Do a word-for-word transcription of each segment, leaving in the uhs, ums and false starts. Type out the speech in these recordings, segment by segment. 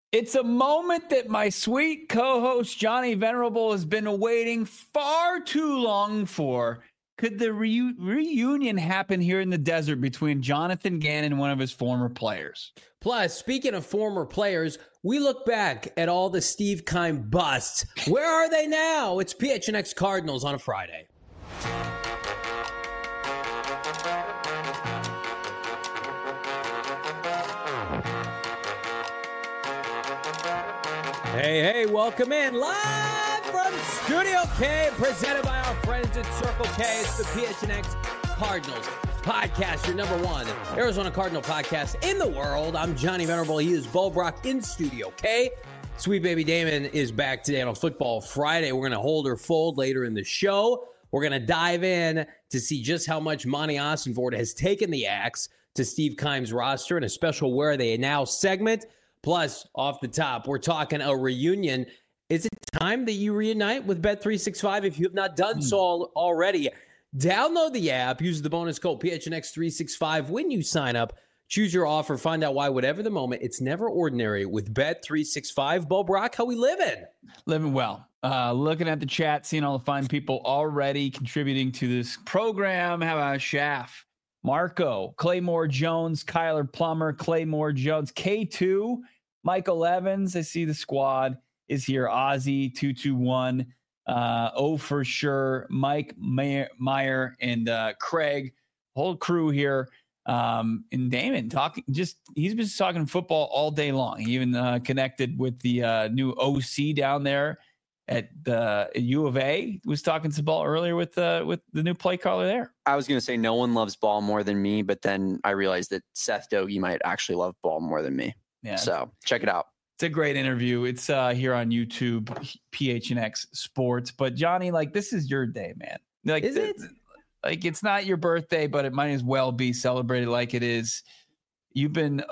It's a moment that my sweet co-host Johnny Venerable has been waiting far too long for. Could the reu- reunion happen here in the desert between Jonathan Gannon and one of his former players? Plus, speaking of former players, we look back at all the Steve Keim busts. Where are they now? It's P H N X Cardinals on a Friday. Hey, hey, welcome in live from Studio K, presented by our friends at Circle K. It's the P H N X Cardinals podcast, your number one Arizona Cardinal podcast in the world. I'm Johnny Venerable. He is Bo Brock in Studio K. Sweet baby Damon is back today on a Football Friday. We're going to hold her fold later in the show. We're going to dive in to see just how much Monty Ossenfort has taken the axe to Steve Keim's roster in a special Where Are They Now segment. Plus, off the top, we're talking a reunion. Is it time that you reunite with Bet three sixty-five? If you have not done so already, download the app. Use the bonus code P H N X three sixty-five when you sign up. Choose your offer. Find out why, whatever the moment, it's never ordinary with Bet three sixty-five. Bo Brock, how we living? Living well. Uh, looking at the chat, seeing all the fine people already contributing to this program. How about Schaff? Marco, Claymore Jones, Kyler Plummer, Claymore Jones, K two, Michael Evans. I see the squad is here. Ozzy, two two one, uh, oh for sure, Mike Meyer, Meyer and uh, Craig, whole crew here. Um, and Damon talking, just he's been talking football all day long. He even uh, connected with the uh, new O C down there at the U of A. Was talking some ball earlier with uh, with the new play caller there. I was going to say no one loves ball more than me, but then I realized that Seth Dogie might actually love ball more than me. Yeah. So check it out. It's a great interview. It's uh, here on YouTube, P H N X Sports. But Johnny, like, this is your day, man. Like, Is it? Like, it's not your birthday, but it might as well be celebrated like it is. You've been,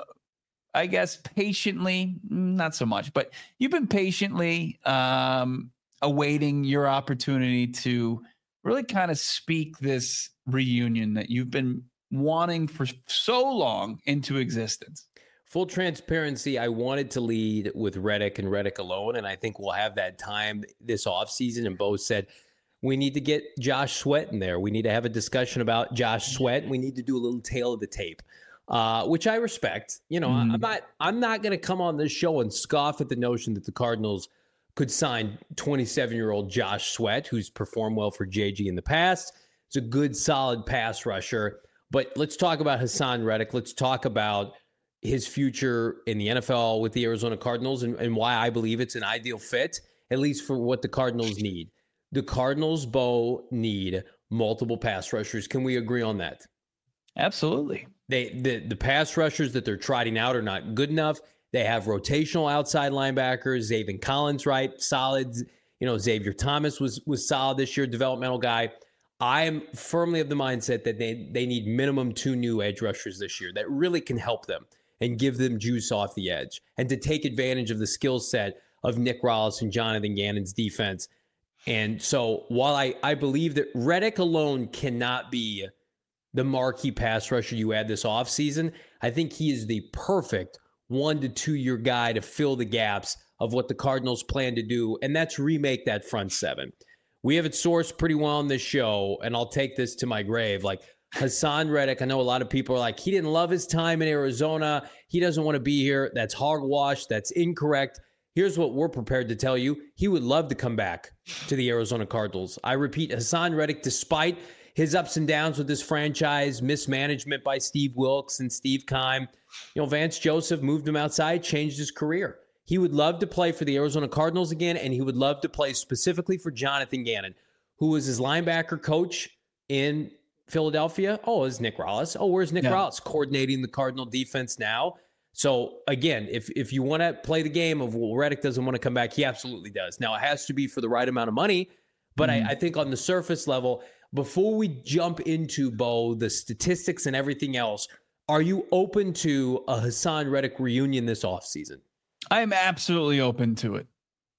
I guess, patiently, not so much, but you've been patiently um, awaiting your opportunity to really kind of speak this reunion that you've been wanting for so long into existence. Full transparency, I wanted to lead with Reddick and Reddick alone, and I think we'll have that time this offseason. And Bo said, we need to get Josh Sweat in there. We need to have a discussion about Josh Sweat. We need to do a little tail of the tape, uh, which I respect. You know, mm. I'm not I'm not going to come on this show and scoff at the notion that the Cardinals could sign twenty-seven-year-old Josh Sweat, who's performed well for J G in the past. He's a good, solid pass rusher. But let's talk about Haason Reddick. Let's talk about his future in the N F L with the Arizona Cardinals and, and why I believe it's an ideal fit, at least for what the Cardinals need. The Cardinals, Bo, need multiple pass rushers. Can we agree on that? Absolutely. They the, the pass rushers that they're trotting out are not good enough. They have rotational outside linebackers. Zaven Collins, right? Solid. You know, Xavier Thomas was was solid this year, developmental guy. I am firmly of the mindset that they, they need minimum two new edge rushers this year that really can help them and give them juice off the edge and to take advantage of the skill set of Nick Rallis and Jonathan Gannon's defense. And so while I, I believe that Reddick alone cannot be the marquee pass rusher you add this offseason, I think he is the perfect one to two year guy to fill the gaps of what the Cardinals plan to do, and that's remake that front seven. We have it sourced pretty well on this show, and I'll take this to my grave. Like Haason Reddick, I know a lot of people are like, he didn't love his time in Arizona. He doesn't want to be here. That's hogwash. That's incorrect. Here's what we're prepared to tell you. He would love to come back to the Arizona Cardinals. I repeat, Haason Reddick, despite his ups and downs with this franchise, mismanagement by Steve Wilks and Steve Keim, you know, Vance Joseph moved him outside, changed his career. He would love to play for the Arizona Cardinals again, and he would love to play specifically for Jonathan Gannon, who was his linebacker coach in Philadelphia. Oh, is Nick Rallis. Oh, where's Nick yeah. Rallis? Coordinating the Cardinal defense now. So, again, if if you want to play the game of, well, Reddick doesn't want to come back, he absolutely does. Now, it has to be for the right amount of money, but mm-hmm. I, I think on the surface level, before we jump into, Bo, the statistics and everything else, are you open to a Haason Reddick reunion this offseason? I'm absolutely open to it.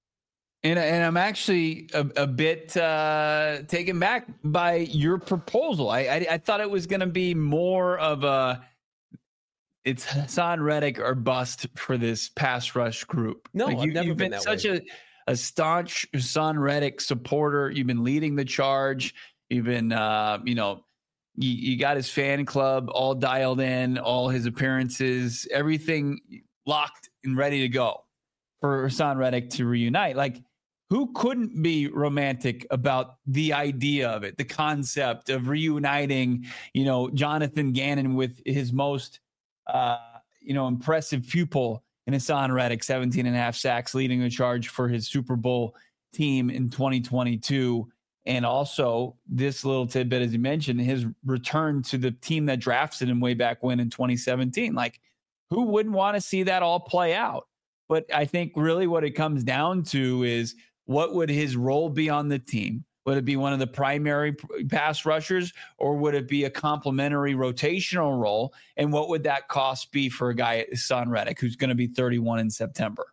And, and I'm actually a, a bit uh, taken back by your proposal. I, I, I thought it was going to be more of a it's Hassan Reddick or bust for this pass rush group. No, like I've you, never you've been been that such way. a, a staunch Hassan Reddick supporter. You've been leading the charge. You've been, uh, you know, you, you got his fan club all dialed in, all his appearances, everything locked and ready to go for Hassan Reddick to reunite. Like, who couldn't be romantic about the idea of it, the concept of reuniting, you know, Jonathan Gannon with his most, uh, you know, impressive pupil in Hassan Reddick, seventeen and a half sacks, leading the charge for his Super Bowl team in twenty twenty-two. And also this little tidbit, as you mentioned, his return to the team that drafted him way back when in twenty seventeen. Like, who wouldn't want to see that all play out? But I think really what it comes down to is, what would his role be on the team? Would it be one of the primary pass rushers, or would it be a complementary rotational role? And what would that cost be for a guy at Hassan Reddick, who's going to be thirty-one in September?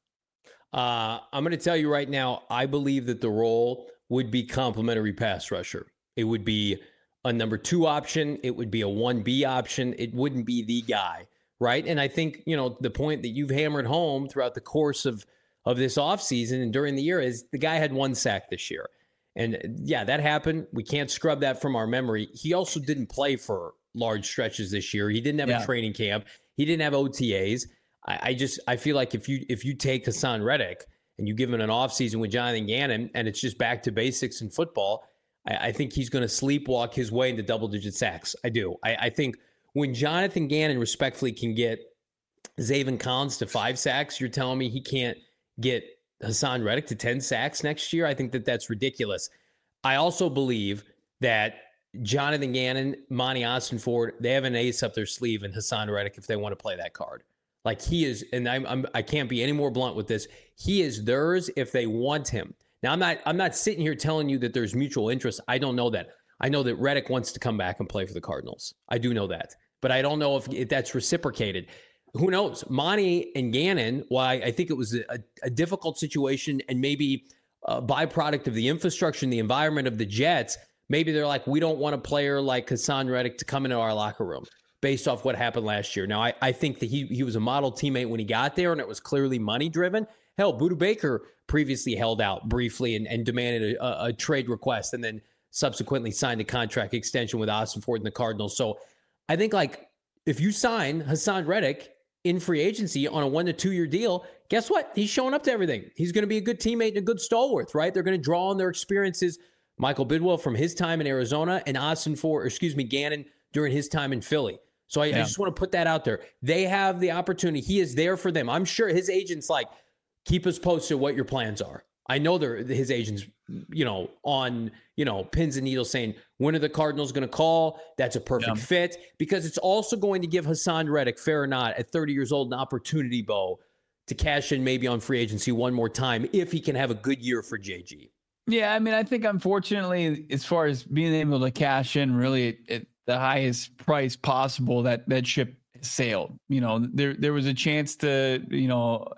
Uh, I'm going to tell you right now, I believe that the role would be complementary pass rusher. It would be a number two option. It would be a one B option. It wouldn't be the guy, right? And I think, you know, the point that you've hammered home throughout the course of of this offseason and during the year is the guy had one sack this year. And yeah, that happened. We can't scrub that from our memory. He also didn't play for large stretches this year. He didn't have yeah. a training camp. He didn't have O T As. I, I just, I feel like if you, if you take Hassan Reddick and you give him an offseason with Jonathan Gannon and it's just back to basics in football, I, I think he's going to sleepwalk his way into double digit sacks. I do. I, I think when Jonathan Gannon respectfully can get Zaven Collins to five sacks, you're telling me he can't get Hassan Reddick to ten sacks next year? I think that that's ridiculous. I also believe that Jonathan Gannon, Monty Ossenford, they have an ace up their sleeve in Hassan Reddick if they want to play that card. Like, he is, and I'm, I'm I can't be any more blunt with this. He is theirs if they want him. Now, I'm not I'm not sitting here telling you that there's mutual interest. I don't know that. I know that Reddick wants to come back and play for the Cardinals. I do know that, but I don't know if, if that's reciprocated. Who knows? Monty and Gannon, why I think it was a, a difficult situation and maybe a byproduct of the infrastructure and the environment of the Jets. Maybe they're like, we don't want a player like Hassan Reddick to come into our locker room based off what happened last year. Now, I, I think that he he was a model teammate when he got there, and it was clearly money driven. Hell, Budda Baker previously held out briefly and, and demanded a, a trade request and then subsequently signed a contract extension with Ossenford and the Cardinals. So I think, like, if you sign Hassan Reddick in free agency on a one to two year deal, guess what? He's showing up to everything. He's going to be a good teammate and a good stalwart, right? They're going to draw on their experiences. Michael Bidwell from his time in Arizona and Ossenford, or excuse me, Gannon during his time in Philly. So I, yeah. I just want to put that out there. They have the opportunity. He is there for them. I'm sure his agent's like, keep us posted what your plans are. I know they're his agents, you know, on, you know, pins and needles saying, when are the Cardinals going to call? That's a perfect yeah. fit, because it's also going to give Hassan Reddick, fair or not, at thirty years old, an opportunity, Bo, to cash in maybe on free agency one more time if he can have a good year for J G. Yeah, I mean, I think unfortunately, as far as being able to cash in really at, at the highest price possible, that that ship sailed. You know, there there was a chance to, you know,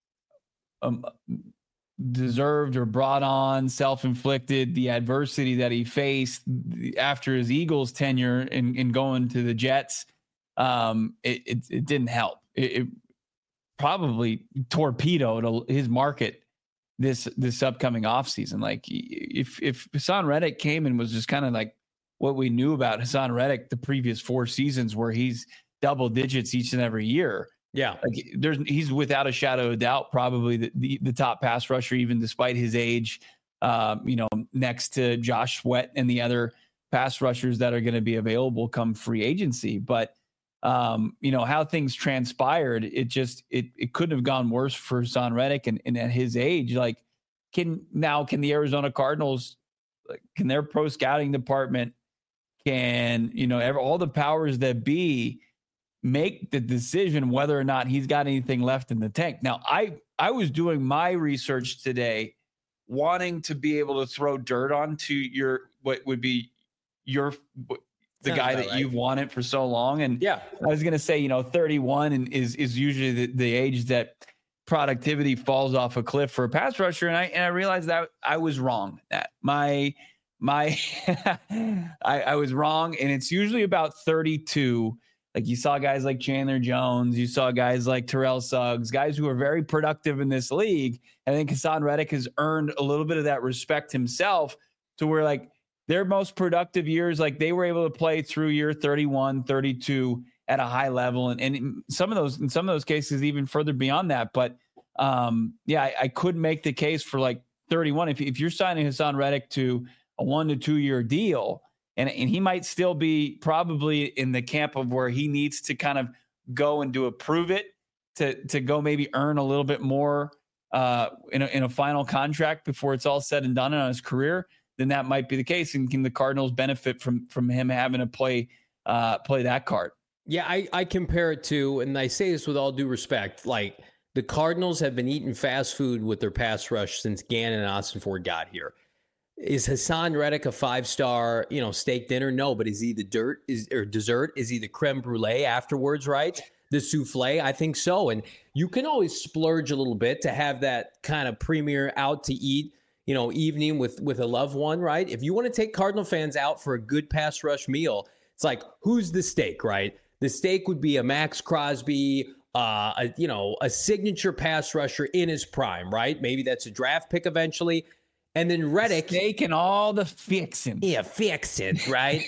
um, deserved or brought on, self-inflicted, the adversity that he faced after his Eagles tenure and, and going to the Jets. Um, it, it, it didn't help. It, it probably torpedoed his market this, this upcoming offseason. Like, if, if Hassan Reddick came and was just kind of like what we knew about Hassan Reddick the previous four seasons, where he's double digits each and every year, yeah, like there's he's without a shadow of doubt probably the, the, the top pass rusher, even despite his age, um, you know, next to Josh Sweat and the other pass rushers that are going to be available come free agency. But, um, you know, how things transpired, it just it it couldn't have gone worse for Hassan Reddick. And, and at his age, like, can now can the Arizona Cardinals, can their pro scouting department, can, you know, ever, all the powers that be, make the decision whether or not he's got anything left in the tank. Now, I, I was doing my research today, wanting to be able to throw dirt onto your, what would be your, the Sounds guy that right. you've wanted for so long. And yeah, I was going to say, you know, thirty-one and is, is usually the, the age that productivity falls off a cliff for a pass rusher. And I, and I realized that I was wrong. That my, my, I, I was wrong. And it's usually about thirty-two Like you saw guys like Chandler Jones, you saw guys like Terrell Suggs, guys who are very productive in this league. And I think Hassan Reddick has earned a little bit of that respect himself to where like their most productive years, like they were able to play through year thirty-one, thirty-two at a high level. And, and in some of those, in some of those cases, even further beyond that. But um, yeah, I, I could make the case for like thirty-one. If, if you're signing Hassan Reddick to a one to two year deal, and, and he might still be probably in the camp of where he needs to kind of go and do a prove it to, to go maybe earn a little bit more uh, in a, in a final contract before it's all said and done on his career, then that might be the case. And can the Cardinals benefit from, from him having to play, uh, play that card? Yeah, I, I compare it to, and I say this with all due respect, like the Cardinals have been eating fast food with their pass rush since Gannon and Ossenfort got here. Is Hassan Reddick a five-star, you know, steak dinner? No, but is he the dirt is or dessert? Is he the creme brulee afterwards, right? The souffle? I think so. And you can always splurge a little bit to have that kind of premier out to eat, you know, evening with, with a loved one, right? If you want to take Cardinal fans out for a good pass rush meal, it's like, who's the steak, right? The steak would be a Max Crosby, uh, a, you know, a signature pass rusher in his prime, right? Maybe that's a draft pick eventually. And then Reddick. Steak and all the fixins. Yeah, fixins, right?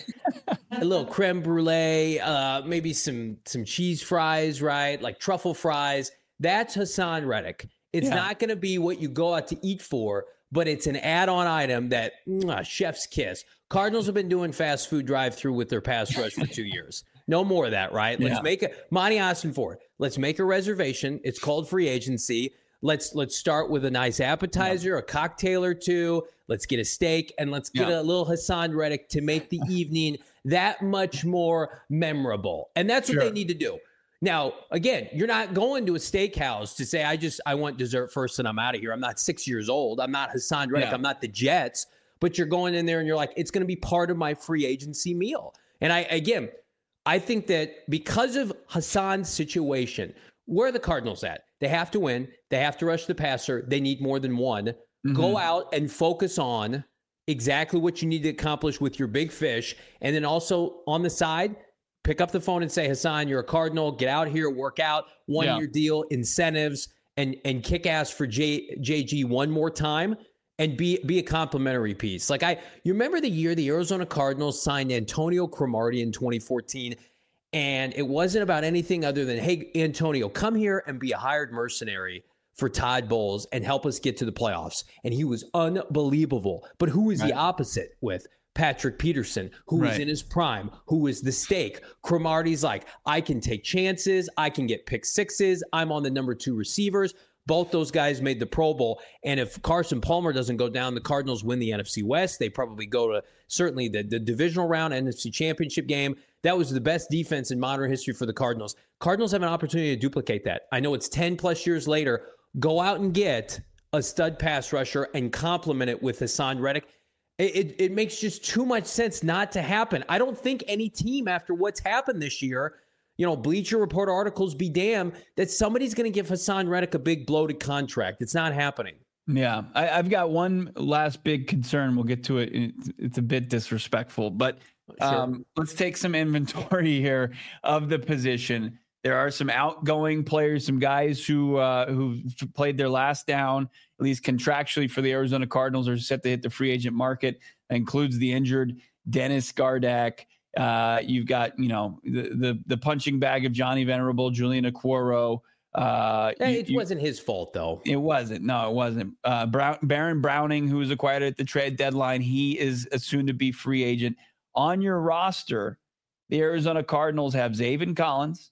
A little creme brulee, uh, maybe some some cheese fries, right? Like truffle fries. That's Hassan Reddick. It's yeah. not going to be what you go out to eat for, but it's an add-on item that, mwah, chef's kiss. Cardinals have been doing fast food drive-through with their pass rush for two years. No more of that, right? Let's yeah. make a Monty Ossenfort. Let's make a reservation. It's called free agency. Let's let's start with a nice appetizer, yeah. a cocktail or two. Let's get a steak, and let's get yeah. a little Hassan Reddick to make the evening that much more memorable. And that's what sure. they need to do. Now, again, you're not going to a steakhouse to say, I just I want dessert first and I'm out of here. I'm not six years old. I'm not Hassan Reddick. Yeah. I'm not the Jets. But you're going in there and you're like, it's going to be part of my free agency meal. And I again, I think that because of Hassan's situation, where are the Cardinals at? They have to win. They have to rush the passer. They need more than one. Mm-hmm. Go out and focus on exactly what you need to accomplish with your big fish. And then also on the side, pick up the phone and say, Hassan, you're a Cardinal. Get out here, work out, one-year yeah. deal, incentives, and and kick ass for J, JG one more time and be be a complimentary piece. Like I, you remember the year the Arizona Cardinals signed Antonio Cromartie in twenty fourteen, and it wasn't about anything other than, hey, Antonio, come here and be a hired mercenary for Todd Bowles and help us get to the playoffs. And he was unbelievable. But who is right. the opposite with? Patrick Peterson, who right. is in his prime, who is the stake. Cromartie's like, I can take chances. I can get pick sixes. I'm on the number two receivers. Both those guys made the Pro Bowl. And if Carson Palmer doesn't go down, the Cardinals win the N F C West. They probably go to certainly the, the divisional round, N F C championship game. That was the best defense in modern history for the Cardinals. Cardinals have an opportunity to duplicate that. I know it's ten plus years later. Go out and get a stud pass rusher and complement it with Hassan Reddick. It, it, it makes just too much sense not to happen. I don't think any team, after what's happened this year, you know, Bleacher Report articles be damned, that somebody's going to give Hassan Reddick a big bloated contract. It's not happening. Yeah, I, I've got one last big concern. We'll get to it. It's, it's a bit disrespectful, but um, sure. let's take some inventory here of the position. There are some outgoing players, some guys who uh, who played their last down, at least contractually for the Arizona Cardinals, are set to hit the free agent market. That includes the injured Dennis Gardeck. Uh, you've got, you know, the, the the punching bag of Johnny Venerable, Julian Okworo. Uh, hey, you, it wasn't his fault, though. It wasn't. No, it wasn't. Uh, Brown, Baron Browning, who was acquired at the trade deadline, he is a soon-to-be free agent. On your roster, the Arizona Cardinals have Zaven Collins,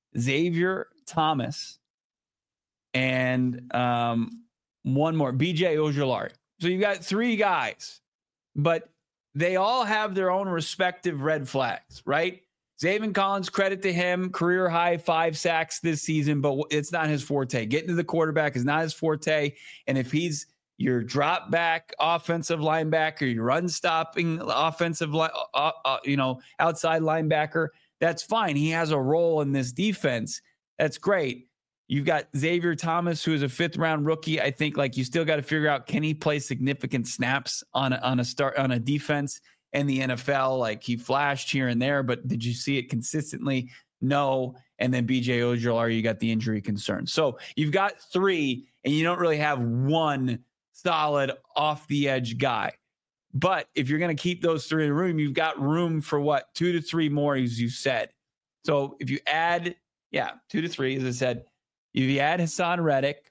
Xavier Thomas, and um, one more, B J Ojulari. So you've got three guys, but they all have their own respective red flags, right? Zaven Collins, credit to him, career high five sacks this season, but it's not his forte. Getting to the quarterback is not his forte. And if he's your drop back offensive linebacker, your run stopping offensive, uh, uh, you know, outside linebacker, that's fine. He has a role in this defense. That's great. You've got Xavier Thomas, who is a fifth round rookie. I think like you still got to figure out, can he play significant snaps on a, on a start on a defense in the N F L? Like he flashed here and there, but did you see it consistently? no. And then B J Ojulari, you got the injury concern. So you've got three, and you don't really have one solid off the edge guy. But if you're going to keep those three in the room, you've got room for what? Two to three more, as you said. So if you add, yeah, two to three, as I said, if you add Hassan Reddick,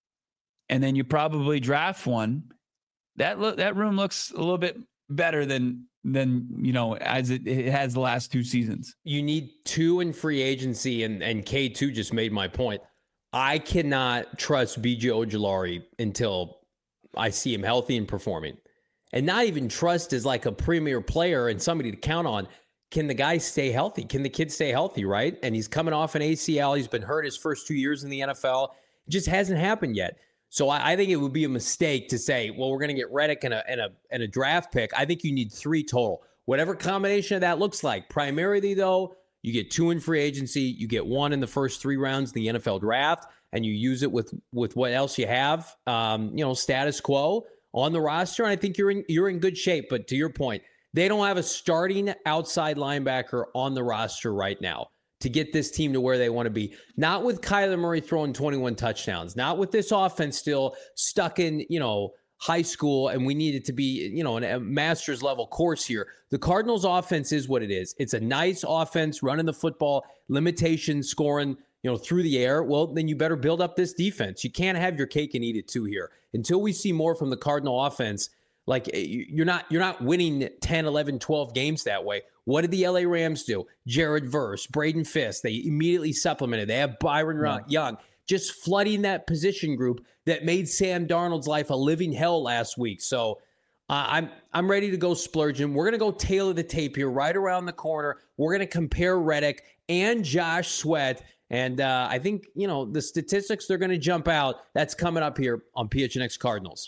and then you probably draft one, that lo- that room looks a little bit better than than you know as it, it has the last two seasons. You need two in free agency, and and K two just made my point. I cannot trust B J Ojulari until I see him healthy and performing, and not even trust as like a premier player and somebody to count on. Can the guy stay healthy? Can the kid stay healthy? Right, and he's coming off an A C L. He's been hurt his first two years in the N F L. It just hasn't happened yet. So I, I think it would be a mistake to say, well, we're going to get Reddick and a, and, a, and a draft pick. I think you need three total. Whatever combination of that looks like. Primarily, though, you get two in free agency. You get one in the first three rounds of the N F L draft, and you use it with, with what else you have, um, you know, status quo on the roster. And I think you're in, you're in good shape. But to your point, they don't have a starting outside linebacker on the roster right now to get this team to where they want to be. Not with Kyler Murray throwing twenty-one touchdowns. Not with this offense still stuck in, you know, high school, and we need it to be, you know, a master's level course here. The Cardinals offense is what it is. It's a nice offense, running the football, limitation, scoring, you know, through the air. Well, then you better build up this defense. You can't have your cake and eat it too here. Until we see more from the Cardinal offense, like you're not you're not winning ten, eleven, twelve games that way. What did the L A Rams do? Jared Verse, Braden Fisk, they immediately supplemented. They have Byron yeah. Young, just flooding that position group that made Sam Darnold's life a living hell last week. So uh, I'm I'm ready to go splurging. We're going to go tailor the tape here right around the corner. We're going to compare Reddick and Josh Sweat. And uh, I think, you know, the statistics, they're going to jump out. That's coming up here on P H N X Cardinals.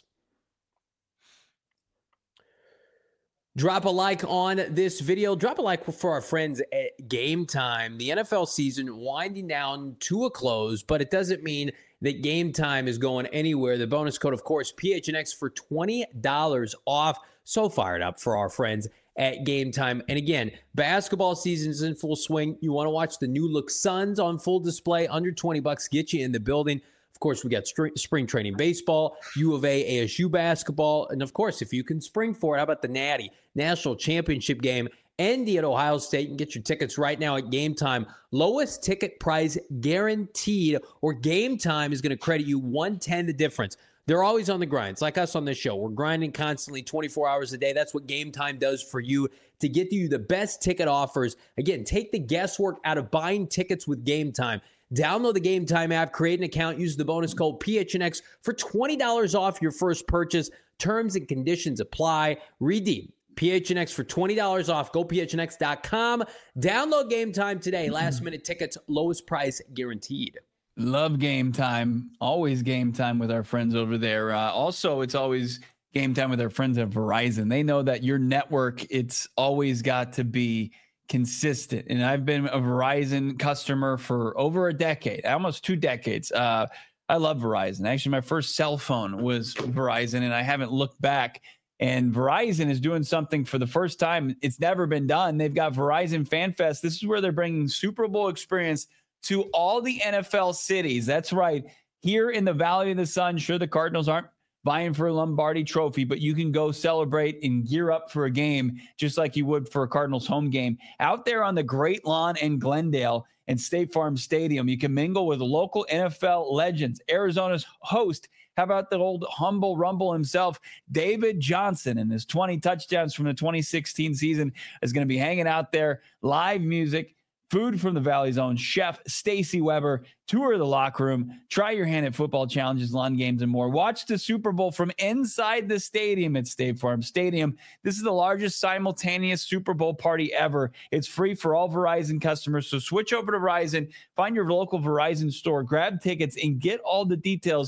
Drop a like on this video. Drop a like for our friends at Game Time. The N F L season winding down to a close, but it doesn't mean that Game Time is going anywhere. The bonus code, of course, P H N X for twenty dollars off. So fired up for our friends at Game Time. And again, basketball season is in full swing. You want to watch the new look Suns on full display. Under twenty bucks, get you in the building. Of course, we got spring training baseball, U of A, A S U basketball, and of course, if you can spring for it, how about the Natty National Championship game ending at Ohio State? You can get your tickets right now at Game Time. Lowest ticket price guaranteed, or Game Time is going to credit you one ten the difference. They're always on the grind. It's like us on this show. We're grinding constantly twenty-four hours a day. That's what Game Time does for you to get you the best ticket offers. Again, take the guesswork out of buying tickets with Game Time. Download the Game Time app, create an account, use the bonus code P H N X for twenty dollars off your first purchase. Terms and conditions apply. Redeem P H N X for twenty dollars off. Go P H N X dot com. Download Game Time today. Last minute tickets, lowest price guaranteed. Love Game Time. Always Game Time with our friends over there. Uh, also, it's always Game Time with our friends at Verizon. They know that your network, it's always got to be consistent. And I've been a Verizon customer for over a decade, almost two decades. Uh, I love Verizon. Actually, my first cell phone was Verizon, and I haven't looked back. And Verizon is doing something for the first time. It's never been done. They've got Verizon Fan Fest. This is where they're bringing Super Bowl experience to all the N F L cities. That's right. Here in the Valley of the Sun, sure, the Cardinals aren't vying for a Lombardi trophy, but you can go celebrate and gear up for a game just like you would for a Cardinals home game. Out there on the Great Lawn in Glendale and State Farm Stadium, you can mingle with local N F L legends. Arizona's host, how about the old humble rumble himself, David Johnson, and his twenty touchdowns from the twenty sixteen season is going to be hanging out there. Live music, food from the Valley's own chef, Stacy Weber, tour of the locker room, try your hand at football challenges, lawn games, and more. Watch the Super Bowl from inside the stadium at State Farm Stadium. This is the largest simultaneous Super Bowl party ever. It's free for all Verizon customers, so switch over to Verizon, find your local Verizon store, grab tickets, and get all the details,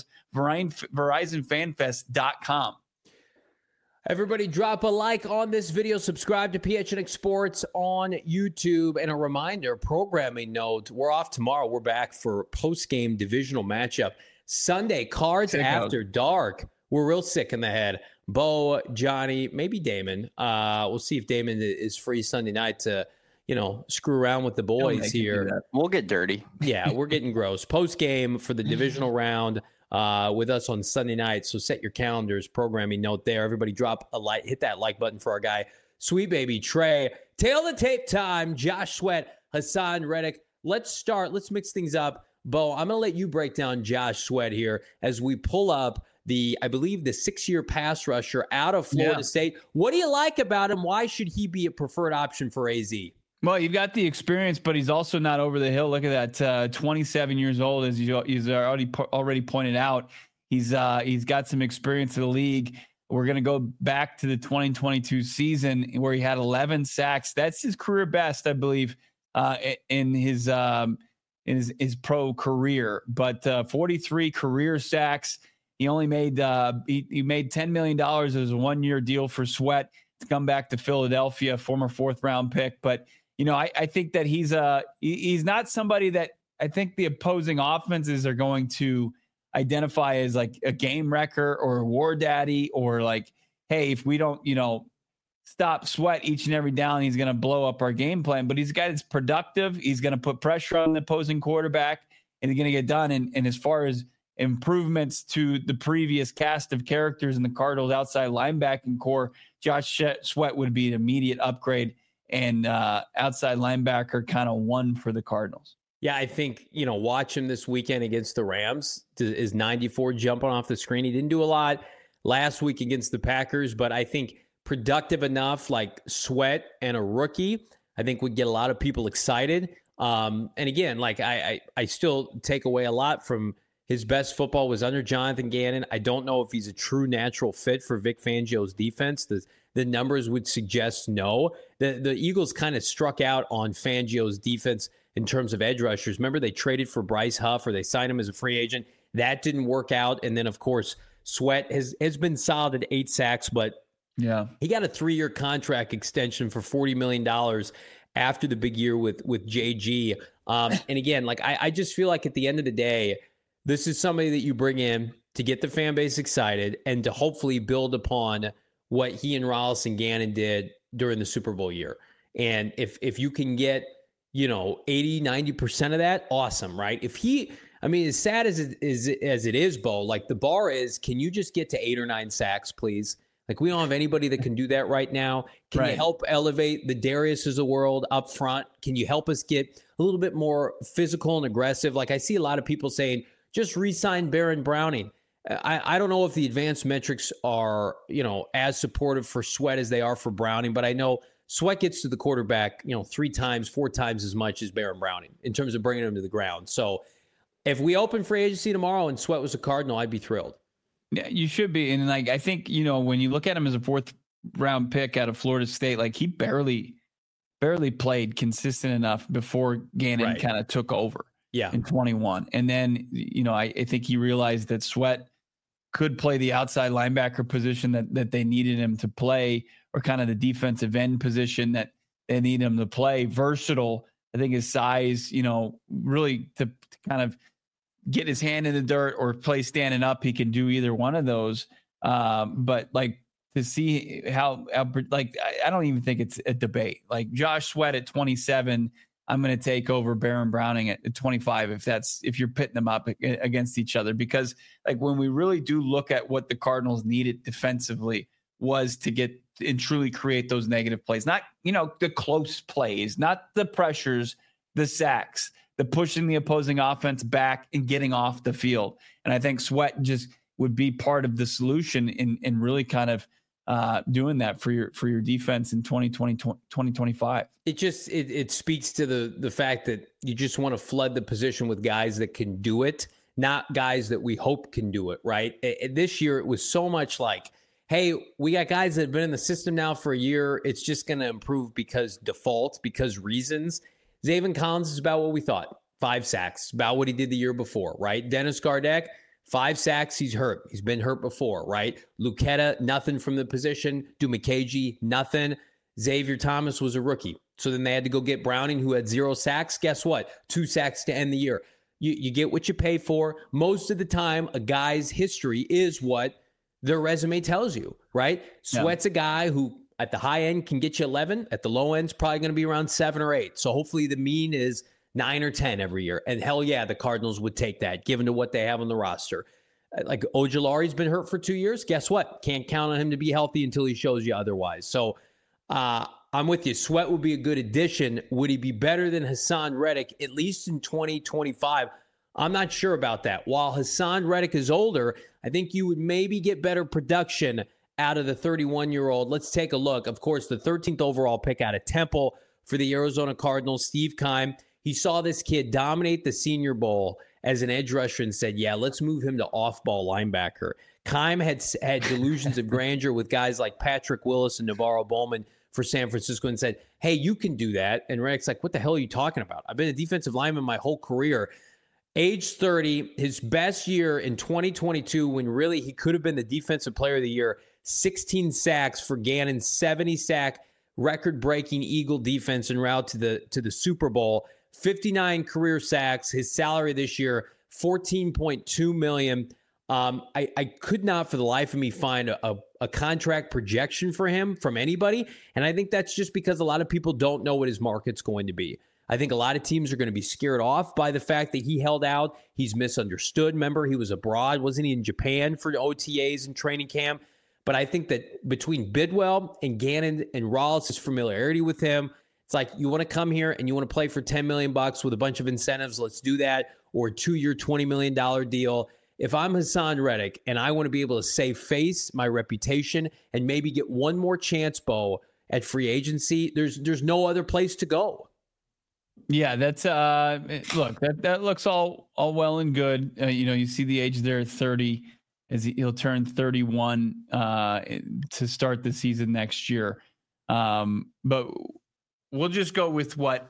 Verizon Fan Fest dot com. Everybody drop a like on this video. Subscribe to P H N X Sports on YouTube. And a reminder, programming note, we're off tomorrow. We're back for post-game divisional matchup. Sunday, Cards sick After out. Dark. We're real sick in the head. Bo, Johnny, maybe Damon. Uh, we'll see if Damon is free Sunday night to, you know, screw around with the boys here. We'll get dirty. Yeah, we're getting gross. Post game for the divisional round uh, with us on Sunday night. So set your calendars, programming note there. Everybody drop a like, hit that like button for our guy, Sweet Baby Trey. Tail the tape time. Josh Sweat, Hassan Reddick. Let's start. Let's mix things up. Bo, I'm going to let you break down Josh Sweat here as we pull up the, I believe, the six-year pass rusher out of Florida yeah. State. What do you like about him? Why should he be a preferred option for A Z? Well, you've got the experience, but he's also not over the hill. Look at that, uh, twenty-seven years old, as you, he's already already pointed out. He's uh, he's got some experience in the league. We're going to go back to the twenty twenty-two season where he had eleven sacks. That's his career best, I believe, uh, in his um, in his, his pro career. But uh, forty-three career sacks. He only made uh, he, he made ten million dollars as a one-year deal for Sweat to come back to Philadelphia, former fourth-round pick, but. You know, I, I think that he's a he's not somebody that I think the opposing offenses are going to identify as like a game wrecker or a war daddy or like, hey, if we don't, you know, stop Sweat each and every down, he's going to blow up our game plan. But he's a guy that's productive. He's going to put pressure on the opposing quarterback and he's going to get done. And, and as far as improvements to the previous cast of characters in the Cardinals outside linebacking core, Josh Sweat would be an immediate upgrade. And uh, outside linebacker kind of one for the Cardinals. Yeah, I think, you know, watch him this weekend against the Rams. Is ninety-four jumping off the screen? He didn't do a lot last week against the Packers, but I think productive enough, like Sweat and a rookie, I think would get a lot of people excited. Um, and again, like I, I, I still take away a lot from his best football was under Jonathan Gannon. I don't know if he's a true natural fit for Vic Fangio's defense. The, the numbers would suggest no. The, the Eagles kind of struck out on Fangio's defense in terms of edge rushers. Remember, they traded for Bryce Huff or they signed him as a free agent. That didn't work out. And then, of course, Sweat has, has been solid at eight sacks, but yeah, he got a three-year contract extension for forty million dollars after the big year with, with J G. Um, and again, like I, I just feel like at the end of the day, this is somebody that you bring in to get the fan base excited and to hopefully build upon what he and Rollis and Gannon did during the Super Bowl year. And if if you can get, you know, eighty, ninety percent of that, awesome, right? If he, I mean, as sad as it is, as it is, Bo, like the bar is, can you just get to eight or nine sacks, please? Like we don't have anybody that can do that right now. Can right. you help elevate the Darius's of the world up front? Can you help us get a little bit more physical and aggressive? Like I see a lot of people saying, just re-sign Baron Browning. I, I don't know if the advanced metrics are, you know, as supportive for Sweat as they are for Browning, but I know Sweat gets to the quarterback, you know, three times, four times as much as Baron Browning in terms of bringing him to the ground. So if we open free agency tomorrow and Sweat was a Cardinal, I'd be thrilled. Yeah, you should be. And like, I think, you know, when you look at him as a fourth round pick out of Florida State, like he barely, barely played consistent enough before Gannon right. kind of took over. Yeah. In twenty-one. And then, you know, I, I think he realized that Sweat could play the outside linebacker position that, that they needed him to play, or kind of the defensive end position that they need him to play. Versatile. I think his size, you know, really to, to kind of get his hand in the dirt or play standing up, he can do either one of those. Um, but like to see how, how like, I, I don't even think it's a debate. Like Josh Sweat at twenty-seven, I'm going to take over Baron Browning at twenty-five if that's if you're pitting them up against each other. Because like when we really do look at what the Cardinals needed defensively was to get and truly create those negative plays, not, you know, the close plays, not the pressures, the sacks, the pushing the opposing offense back and getting off the field. And I think Sweat just would be part of the solution in in really kind of Uh, doing that for your for your defense in twenty twenty, twenty twenty-five. It just it, it speaks to the the fact that you just want to flood the position with guys that can do it, not guys that we hope can do it, right? It, it, this year it was so much like, hey, we got guys that have been in the system now for a year. It's just going to improve because default, because reasons. Zaven Collins is about what we thought. Five sacks, about what he did the year before, right? Dennis Gardeck, Five sacks, he's hurt. He's been hurt before, right? Lucetta, nothing from the position. Dumakaji, nothing. Xavier Thomas was a rookie. So then they had to go get Browning, who had zero sacks. Guess what? Two sacks to end the year. You, you get what you pay for. Most of the time, a guy's history is what their resume tells you, right? Sweat's yeah. a guy who at the high end can get you eleven. At the low end, it's probably going to be around seven or eight. So hopefully the mean is nine or ten every year. And hell yeah, the Cardinals would take that, given to what they have on the roster. Like Ojulari's been hurt for two years. Guess what? Can't count on him to be healthy until he shows you otherwise. So uh, I'm with you. Sweat would be a good addition. Would he be better than Hassan Reddick, at least in twenty twenty-five? I'm not sure about that. While Hassan Reddick is older, I think you would maybe get better production out of the thirty-one-year-old. Let's take a look. Of course, the thirteenth overall pick out of Temple for the Arizona Cardinals, Steve Keim. He saw this kid dominate the Senior Bowl as an edge rusher and said, yeah, let's move him to off-ball linebacker. Keim had, had delusions of grandeur with guys like Patrick Willis and Navarro Bowman for San Francisco and said, hey, you can do that. And Reddick's like, what the hell are you talking about? I've been a defensive lineman my whole career. Age thirty, his best year in twenty twenty-two when really he could have been the defensive player of the year, sixteen sacks for Gannon's seventy-sack record-breaking Eagle defense en route to the to the Super Bowl. fifty-nine career sacks. His salary this year, fourteen point two million dollars. Um, I, I could not for the life of me find a, a, a contract projection for him from anybody. And I think that's just because a lot of people don't know what his market's going to be. I think a lot of teams are going to be scared off by the fact that he held out. He's misunderstood. Remember, he was abroad. Wasn't he in Japan for O T As and training camp? But I think that between Bidwell and Gannon and Rollis' familiarity with him, it's like, you want to come here and you want to play for ten million bucks with a bunch of incentives, let's do that. Or a two-year, twenty million dollars deal. If I'm Hassan Reddick and I want to be able to save face, my reputation, and maybe get one more chance, Bo, at free agency, there's there's no other place to go. Yeah, that's uh look, that that looks all all well and good. Uh, you know, you see the age there at thirty, as he, he'll turn thirty-one uh to start the season next year. Um, but we'll just go with what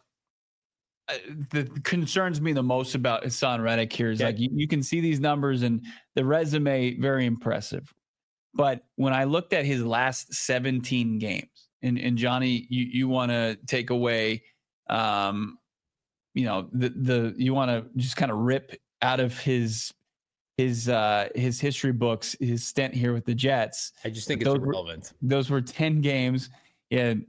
uh, the concerns me the most about Hassan Reddick here is, yeah, like you, you can see these numbers and the resume very impressive. But when I looked at his last seventeen games, and, and Johnny, you, you want to take away um, you know, the, the, you want to just kind of rip out of his, his, uh, his history books, his stint here with the Jets. I just think those it's irrelevant. Were, those were ten games and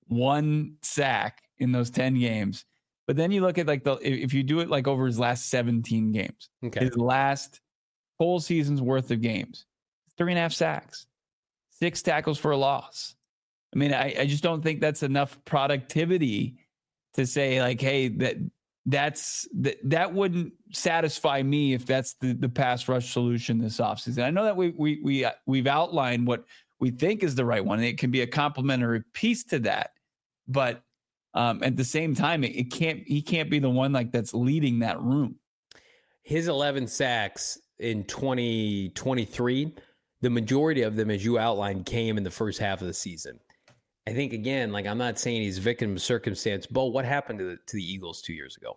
one sack in those ten games. But then you look at like the, if you do it like over his last seventeen games, okay, his last full season's worth of games, three and a half sacks, six tackles for a loss. I mean, I, I just don't think that's enough productivity to say like, hey, that that's that that wouldn't satisfy me if that's the, the pass rush solution this offseason. I know that we we we we've outlined what we think is the right one. It can be a complementary piece to that, but um, at the same time, it, it can't he can't be the one like that's leading that room. His eleven sacks in twenty twenty-three, the majority of them, as you outlined, came in the first half of the season. I think, again, like I'm not saying he's a victim of circumstance. Bo, what happened to the, to the Eagles two years ago?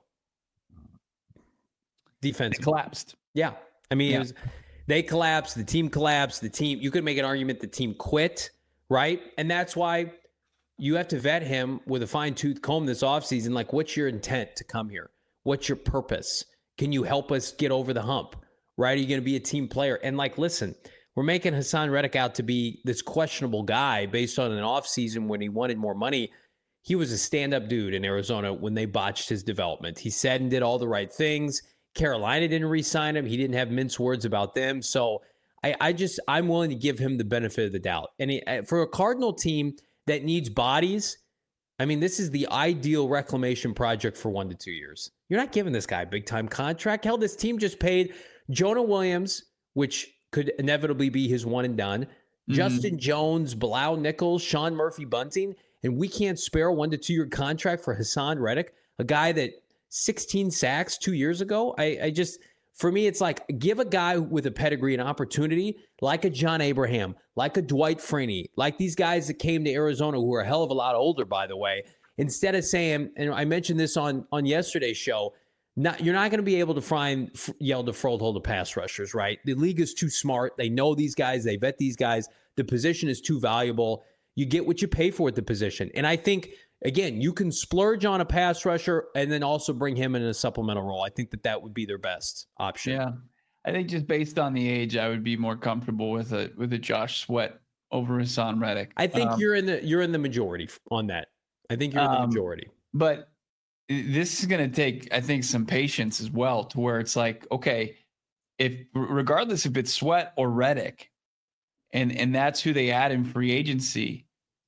Defense collapsed. Yeah. I mean, yeah. It was, they collapsed. The team collapsed. The team, you could make an argument the team quit, right? And that's why you have to vet him with a fine-tooth comb this offseason. Like, what's your intent to come here? What's your purpose? Can you help us get over the hump, right? Are you going to be a team player? And, like, listen, we're making Hassan Reddick out to be this questionable guy based on an offseason when he wanted more money. He was a stand-up dude in Arizona when they botched his development. He said and did all the right things. Carolina didn't re-sign him. He didn't have mince words about them. So I, I just, I'm willing to give him the benefit of the doubt. And he, for a Cardinal team that needs bodies, I mean, this is the ideal reclamation project for one to two years. You're not giving this guy a big-time contract. Hell, this team just paid Jonah Williams, which could inevitably be his one and done, mm-hmm. Justin Jones, Bilal Nichols, Sean Murphy-Bunting, and we can't spare a one to two year contract for Hassan Reddick, a guy that sixteen sacks two years ago. I, I just, for me, it's like give a guy with a pedigree an opportunity, like a John Abraham, like a Dwight Freeney, like these guys that came to Arizona who are a hell of a lot older, by the way. Instead of saying, and I mentioned this on on yesterday's show, Not, you're not going to be able to find Hjalte Froholdt pass rushers, right? The league is too smart. They know these guys. They vet these guys. The position is too valuable. You get what you pay for at the position. And I think, again, you can splurge on a pass rusher and then also bring him in a supplemental role. I think that that would be their best option. Yeah. I think just based on the age, I would be more comfortable with a with a Josh Sweat over Hassan Reddick. I think um, you're in the you're in the majority on that. I think you're in the um, majority. But this is going to take, I think, some patience as well, to where it's like, okay, if regardless if it's Sweat or Reddick, and and that's who they add in free agency,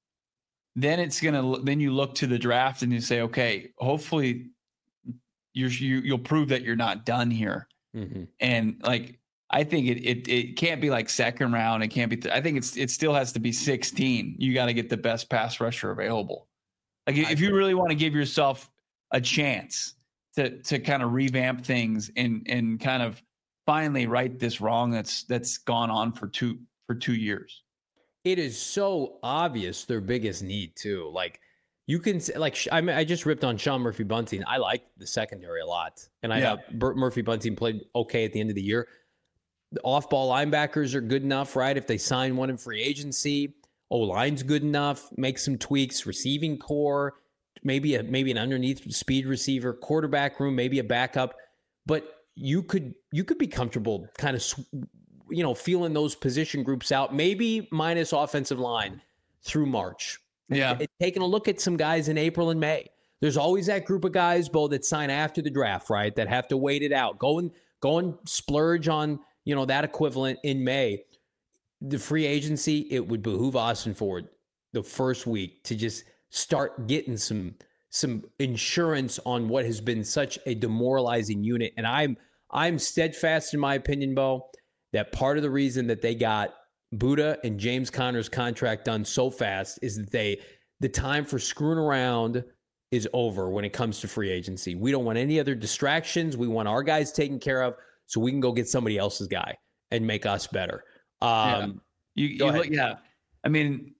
then it's gonna then you look to the draft and you say, okay, hopefully you're you, you'll prove that you're not done here. Mm-hmm. And like, I think it it it can't be like second round. It can't be. Th- I think it's it still has to be sixteen. You got to get the best pass rusher available. Like if I you really want to give yourself a chance to to kind of revamp things and and kind of finally right this wrong that's that's gone on for two for two years. It is so obvious their biggest need too. Like you can say, like I mean, I just ripped on Sean Murphy Bunting. I like the secondary a lot, and I Yeah. thought Burt Murphy Bunting played okay at the end of the year. The off-ball linebackers are good enough, right? If they sign one in free agency, O-line's good enough. Make some tweaks. Receiving core, maybe a maybe an underneath speed receiver, quarterback room, maybe a backup. But you could you could be comfortable, kind of, you know, feeling those position groups out, maybe minus offensive line through March. Yeah, And taking a look at some guys in April and May. There's always that group of guys, Bo, that sign after the draft, right? That have to wait it out. Go and go and splurge on, you know, that equivalent in May. The free agency, it would behoove Austin Ford the first week to just start getting some some insurance on what has been such a demoralizing unit. And I'm I'm steadfast in my opinion, Bo, that part of the reason that they got Buddha and James Conner's contract done so fast is that they the time for screwing around is over when it comes to free agency. We don't want any other distractions. We want our guys taken care of so we can go get somebody else's guy and make us better. Um, yeah. You, you look, yeah. I mean,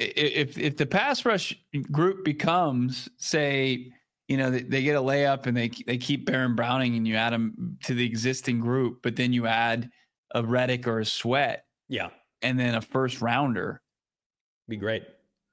if if the pass rush group becomes, say, you know, they, they get a layup and they they keep Baron Browning and you add them to the existing group, but then you add a Reddick or a Sweat, yeah, and then a first rounder, be great.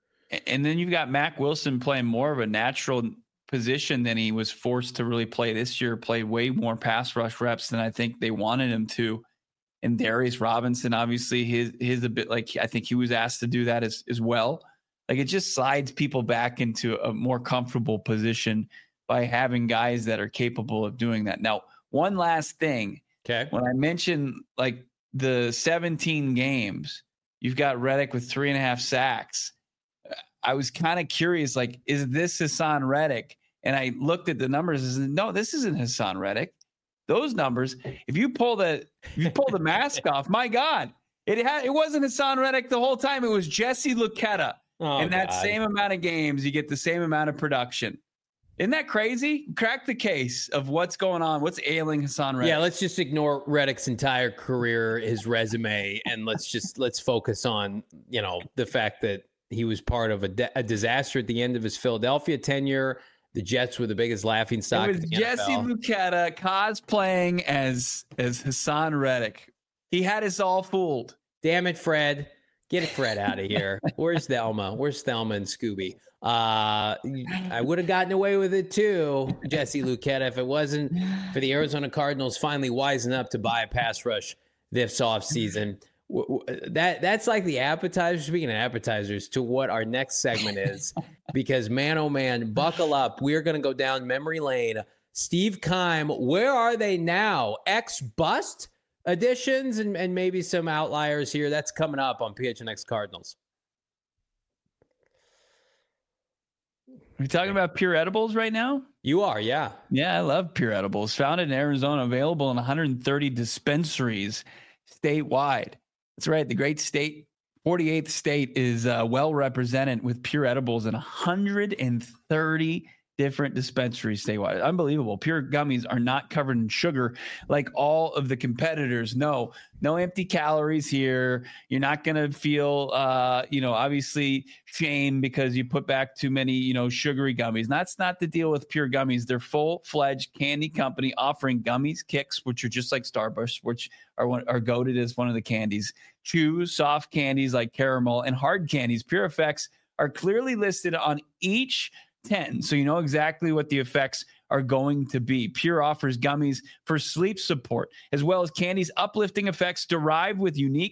And then you've got Mac Wilson playing more of a natural position than he was forced to really play this year. Played way more pass rush reps than I think they wanted him to. And Darius Robinson, obviously, his his a bit like I think he was asked to do that as as well. Like it just slides people back into a more comfortable position by having guys that are capable of doing that. Now, one last thing. Okay. When I mentioned like the seventeen games, you've got Reddick with three and a half sacks. I was kind of curious, like, is this Hassan Reddick? And I looked at the numbers and said, no, this isn't Hassan Reddick. Those numbers, if you pull the if you pull the mask off, my God, it had it wasn't Hassan Reddick the whole time. It was Jesse Luketa. Oh, In that God. same amount of games, you get the same amount of production. Isn't that crazy? Crack the case of what's going on. What's ailing Hassan Reddick? Yeah, let's just ignore Reddick's entire career, his resume, and let's just let's focus on, you know, the fact that he was part of a, de- a disaster at the end of his Philadelphia tenure. The Jets were the biggest laughing stock. It was in the Jesse N F L. Luketa cosplaying as as Hassan Reddick. He had us all fooled. Damn it, Fred. Get Fred out of here. Where's Thelma? Where's Thelma and Scooby? Uh, I would have gotten away with it too, Jesse Luketa, if it wasn't for the Arizona Cardinals finally wising up to buy a pass rush this offseason. That that's like the appetizer. Speaking of appetizers, to what our next segment is, because man, oh man, buckle up. We're gonna go down memory lane. Steve Keim, where are they now? Ex bust additions and, and maybe some outliers here. That's coming up on P H N X Cardinals. Are you talking about Pure Edibles right now? You are, yeah. Yeah, I love Pure Edibles. Founded in Arizona, available in one hundred thirty dispensaries statewide. That's right. The great state, forty-eighth state, is uh, well represented with Pure Edibles in one hundred thirty different dispensaries statewide. Unbelievable. Pure gummies are not covered in sugar like all of the competitors. No, no empty calories here. You're not going to feel, uh, you know, obviously shame because you put back too many, you know, sugary gummies. That's not the deal with Pure Gummies. They're full-fledged candy company offering gummies, kicks, which are just like Starburst, which are one, are goated as one of the candies, chews, soft candies like caramel, and hard candies. Pure Effects are clearly listed on each ten, so you know exactly what the effects are going to be. Pure offers gummies for sleep support, as well as candies uplifting effects derived with unique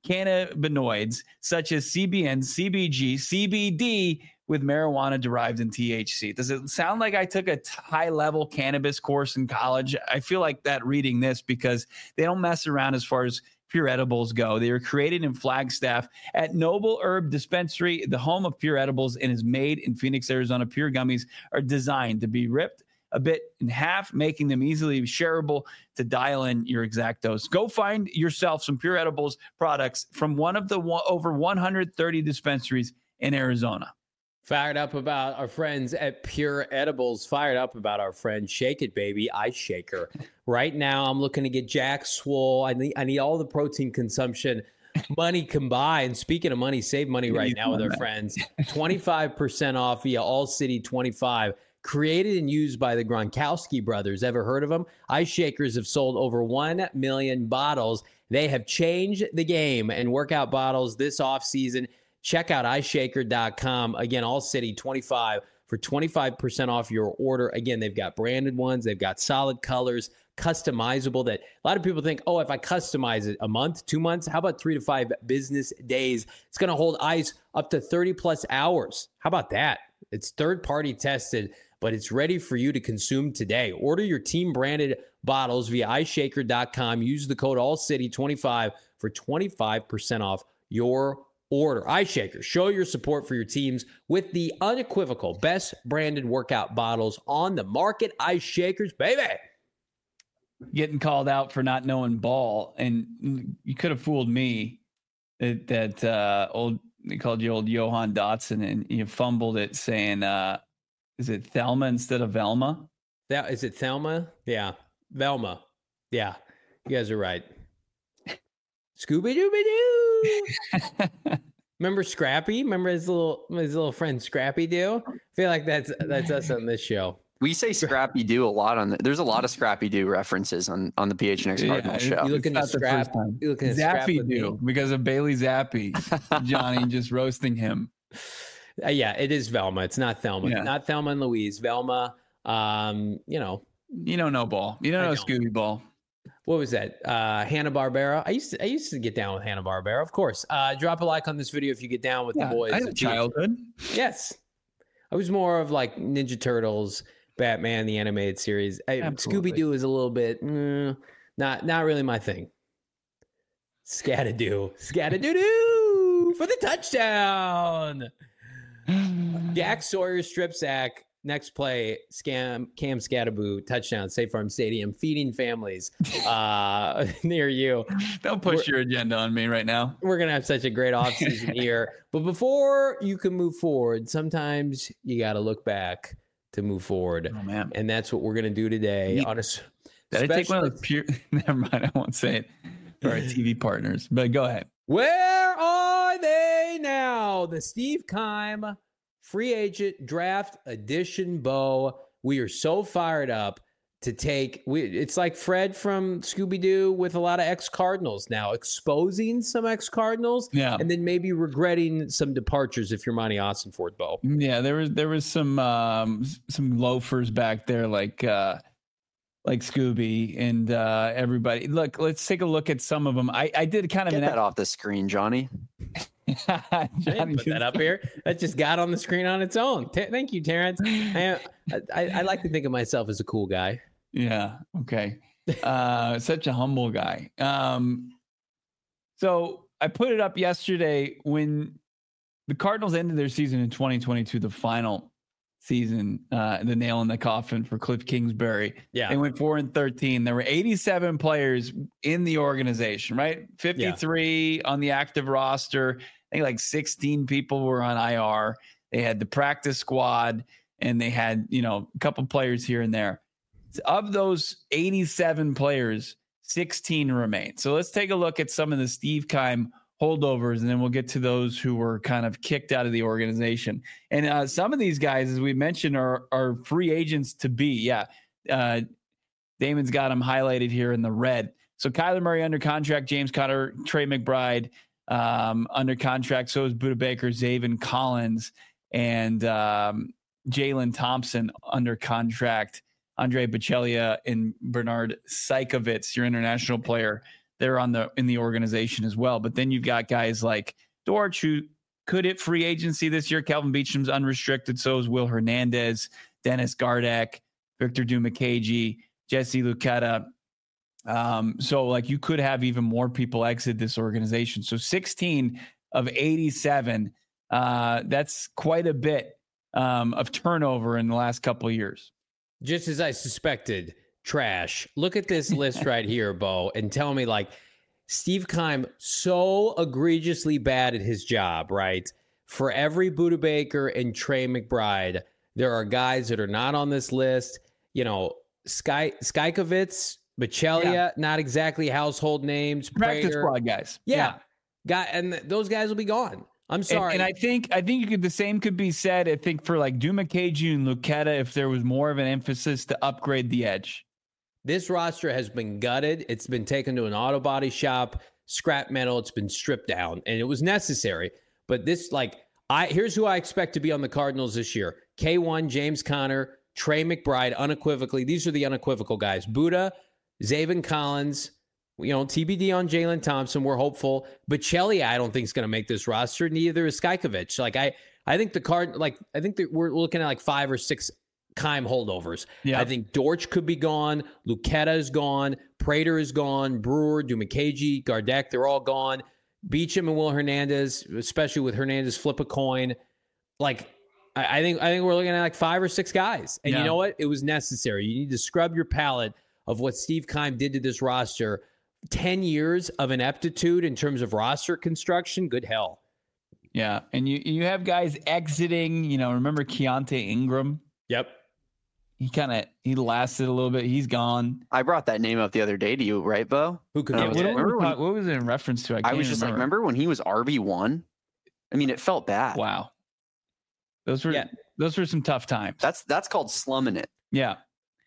cannabinoids such as C B N, C B G, C B D with marijuana derived in T H C. Does it sound like I took a high level cannabis course in college? I feel like that reading this because they don't mess around as far as Pure Edibles go. They were created in Flagstaff at Noble Herb Dispensary, the home of Pure Edibles, and is made in Phoenix, Arizona. Pure gummies are designed to be ripped a bit in half, making them easily shareable to dial in your exact dose. Go find yourself some Pure Edibles products from one of the one, over one hundred thirty dispensaries in Arizona. Fired up about our friends at Pure Edibles. Fired up about our friend Shake It Baby Ice Shaker. Right now, I'm looking to get Jack swole. I need, I need all the protein consumption money combined. Speaking of money, save money right now with our friends. twenty-five percent off via All City twenty-five. Created and used by the Gronkowski brothers. Ever heard of them? Ice Shakers have sold over one million bottles. They have changed the game and workout bottles this offseason. Check out ice shaker dot com. Again, All City twenty-five for twenty-five percent off your order. Again, they've got branded ones. They've got solid colors, customizable that a lot of people think, oh, if I customize it a month, two months, how about three to five business days? It's going to hold ice up to thirty plus hours. How about that? It's third party tested, but it's ready for you to consume today. Order your team branded bottles via ice shaker dot com. Use the code all city twenty-five for twenty-five percent off your order. Ice Shaker, show your support for your teams with the unequivocal best branded workout bottles on the market. Ice Shakers, baby. Getting called out for not knowing ball, and you could have fooled me that, that uh, old they called you old Johan Dotson, and you fumbled it saying, uh, is it Thelma instead of Velma? That is it Thelma? Yeah. Velma. Yeah. You guys are right. Scooby-Dooby-Doo. Remember Scrappy? Remember his little his little friend Scrappy Doo? I feel like that's that's us on this show. We say Scrappy Doo a lot on the, there's a lot of Scrappy Doo references on, on the P H N X Cardinals yeah, show. You looking at Scrap? You looking at Zappy Doo because of Bailey Zappi. Johnny just roasting him. Uh, yeah, it is Velma. It's not Thelma. Yeah. Not Thelma and Louise. Velma. Um, you know, you don't know ball. You don't I know don't. Scooby Ball. What was that? Uh, Hanna-Barbera. I used to I used to get down with Hanna-Barbera, of course. Uh, drop a like on this video if you get down with Yeah, the boys. I had a childhood. Yes. I was more of like Ninja Turtles, Batman, the animated series. I, Absolutely. Scooby-Doo is a little bit mm, not not really my thing. Scatadoo. Scatadoo-doo for the touchdown. Jack Sawyer strip sack. Next play, scam Cam Scattaboo touchdown, State Farm Stadium, feeding families uh, near you. Don't push We're- your agenda on me right now. We're gonna have such a great offseason here, but before you can move forward, sometimes you got to look back to move forward, Oh man, and that's what we're gonna do today. Yeah. On a, s- did I take one special- of the pure? Never mind, I won't say it for our T V partners. But go ahead. Where are they now? The Steve Keim free agent draft edition, Bo. We are so fired up to take. We, it's like Fred from Scooby-Doo with a lot of ex-Cardinals now, exposing some ex-Cardinals, Yeah, and then maybe regretting some departures if you're Monty Austinford, Bo. yeah. There was there was some um, some loafers back there like uh, like Scooby and uh, everybody. Look, let's take a look at some of them. I, I did kind of Get an that off the screen, Johnny. I didn't put that up here. That just got on the screen on its own. T- thank you, Terrence. I, I, I like to think of myself as a cool guy. Yeah. Okay. Uh, such a humble guy. Um, so I put it up yesterday when the Cardinals ended their season in twenty twenty-two, the final season, uh, the nail in the coffin for Cliff Kingsbury. Yeah. They went four and thirteen. There were eighty-seven players in the organization, right? fifty-three on the active roster. I think like sixteen people were on I R. They had the practice squad and they had, you know, a couple players here and there. Of those eighty-seven players, sixteen remain. So let's take a look at some of the Steve Keim holdovers, and then we'll get to those who were kind of kicked out of the organization. And uh, some of these guys, as we mentioned, are are free agents to be. Yeah. Uh, Damon's got them highlighted here in the red. So Kyler Murray under contract, James Conner, Trey McBride um, under contract. So is Budda Baker, Zaven Collins, and um, Jalen Thompson under contract. Andre Bocellia and Bernard Saikovitz, your international player, they're on the in the organization as well. But then you've got guys like Dortch, who could hit free agency this year. Kelvin Beacham's unrestricted. So is Will Hernandez, Dennis Gardeck, Victor Dumakagi, Jesse Luketa. Um, so like you could have even more people exit this organization. So sixteen of eighty-seven, uh, that's quite a bit um, of turnover in the last couple of years. Just as I suspected, trash. Look at this list right here, Bo, and tell me, like, Steve Keim, so egregiously bad at his job, right? For every Budda Baker and Trey McBride, there are guys that are not on this list. You know, Sky Skykovitz, Bachelia, yeah. not exactly household names. Practice Prater. squad guys. Yeah. yeah. Guy, and th- those guys will be gone. I'm sorry. And, and I think I think you could the same could be said, I think, for like Dumakagi and Luketa, if there was more of an emphasis to upgrade the edge. This roster has been gutted. It's been taken to an auto body shop, scrap metal. It's been stripped down, and it was necessary. But this, like, I here's who I expect to be on the Cardinals this year. K one, James Conner, Trey McBride, unequivocally. These are the unequivocal guys. Budda, Zaven Collins, you know, T B D on Jalen Thompson. We're hopeful. Bachelia, I don't think is going to make this roster. Neither is Skykovich. Like, I, I think the card, like, I think that we're looking at like five or six Keim holdovers. Yeah. I think Dortch could be gone. Luketa is gone. Prater is gone. Brewer, Dumakagi, Gardeck, they're all gone. Beacham and Will Hernandez, especially with Hernandez flip a coin. Like, I, I think I think we're looking at like five or six guys. And yeah. you know what? It was necessary. You need to scrub your palate of what Steve Keim did to this roster. ten years of ineptitude in terms of roster construction. Good hell. Yeah. And you you have guys exiting, you know, remember Keontae Ingram? Yep. He kind of, he lasted a little bit. He's gone. I brought that name up the other day to you, right, Bo? Who could yeah, was what, remember when, when, what was it in reference to? I, I was just remember. like, remember when he was R B one? I mean, it felt bad. Wow. Those were, yeah. those were some tough times. That's, that's called slumming it. Yeah.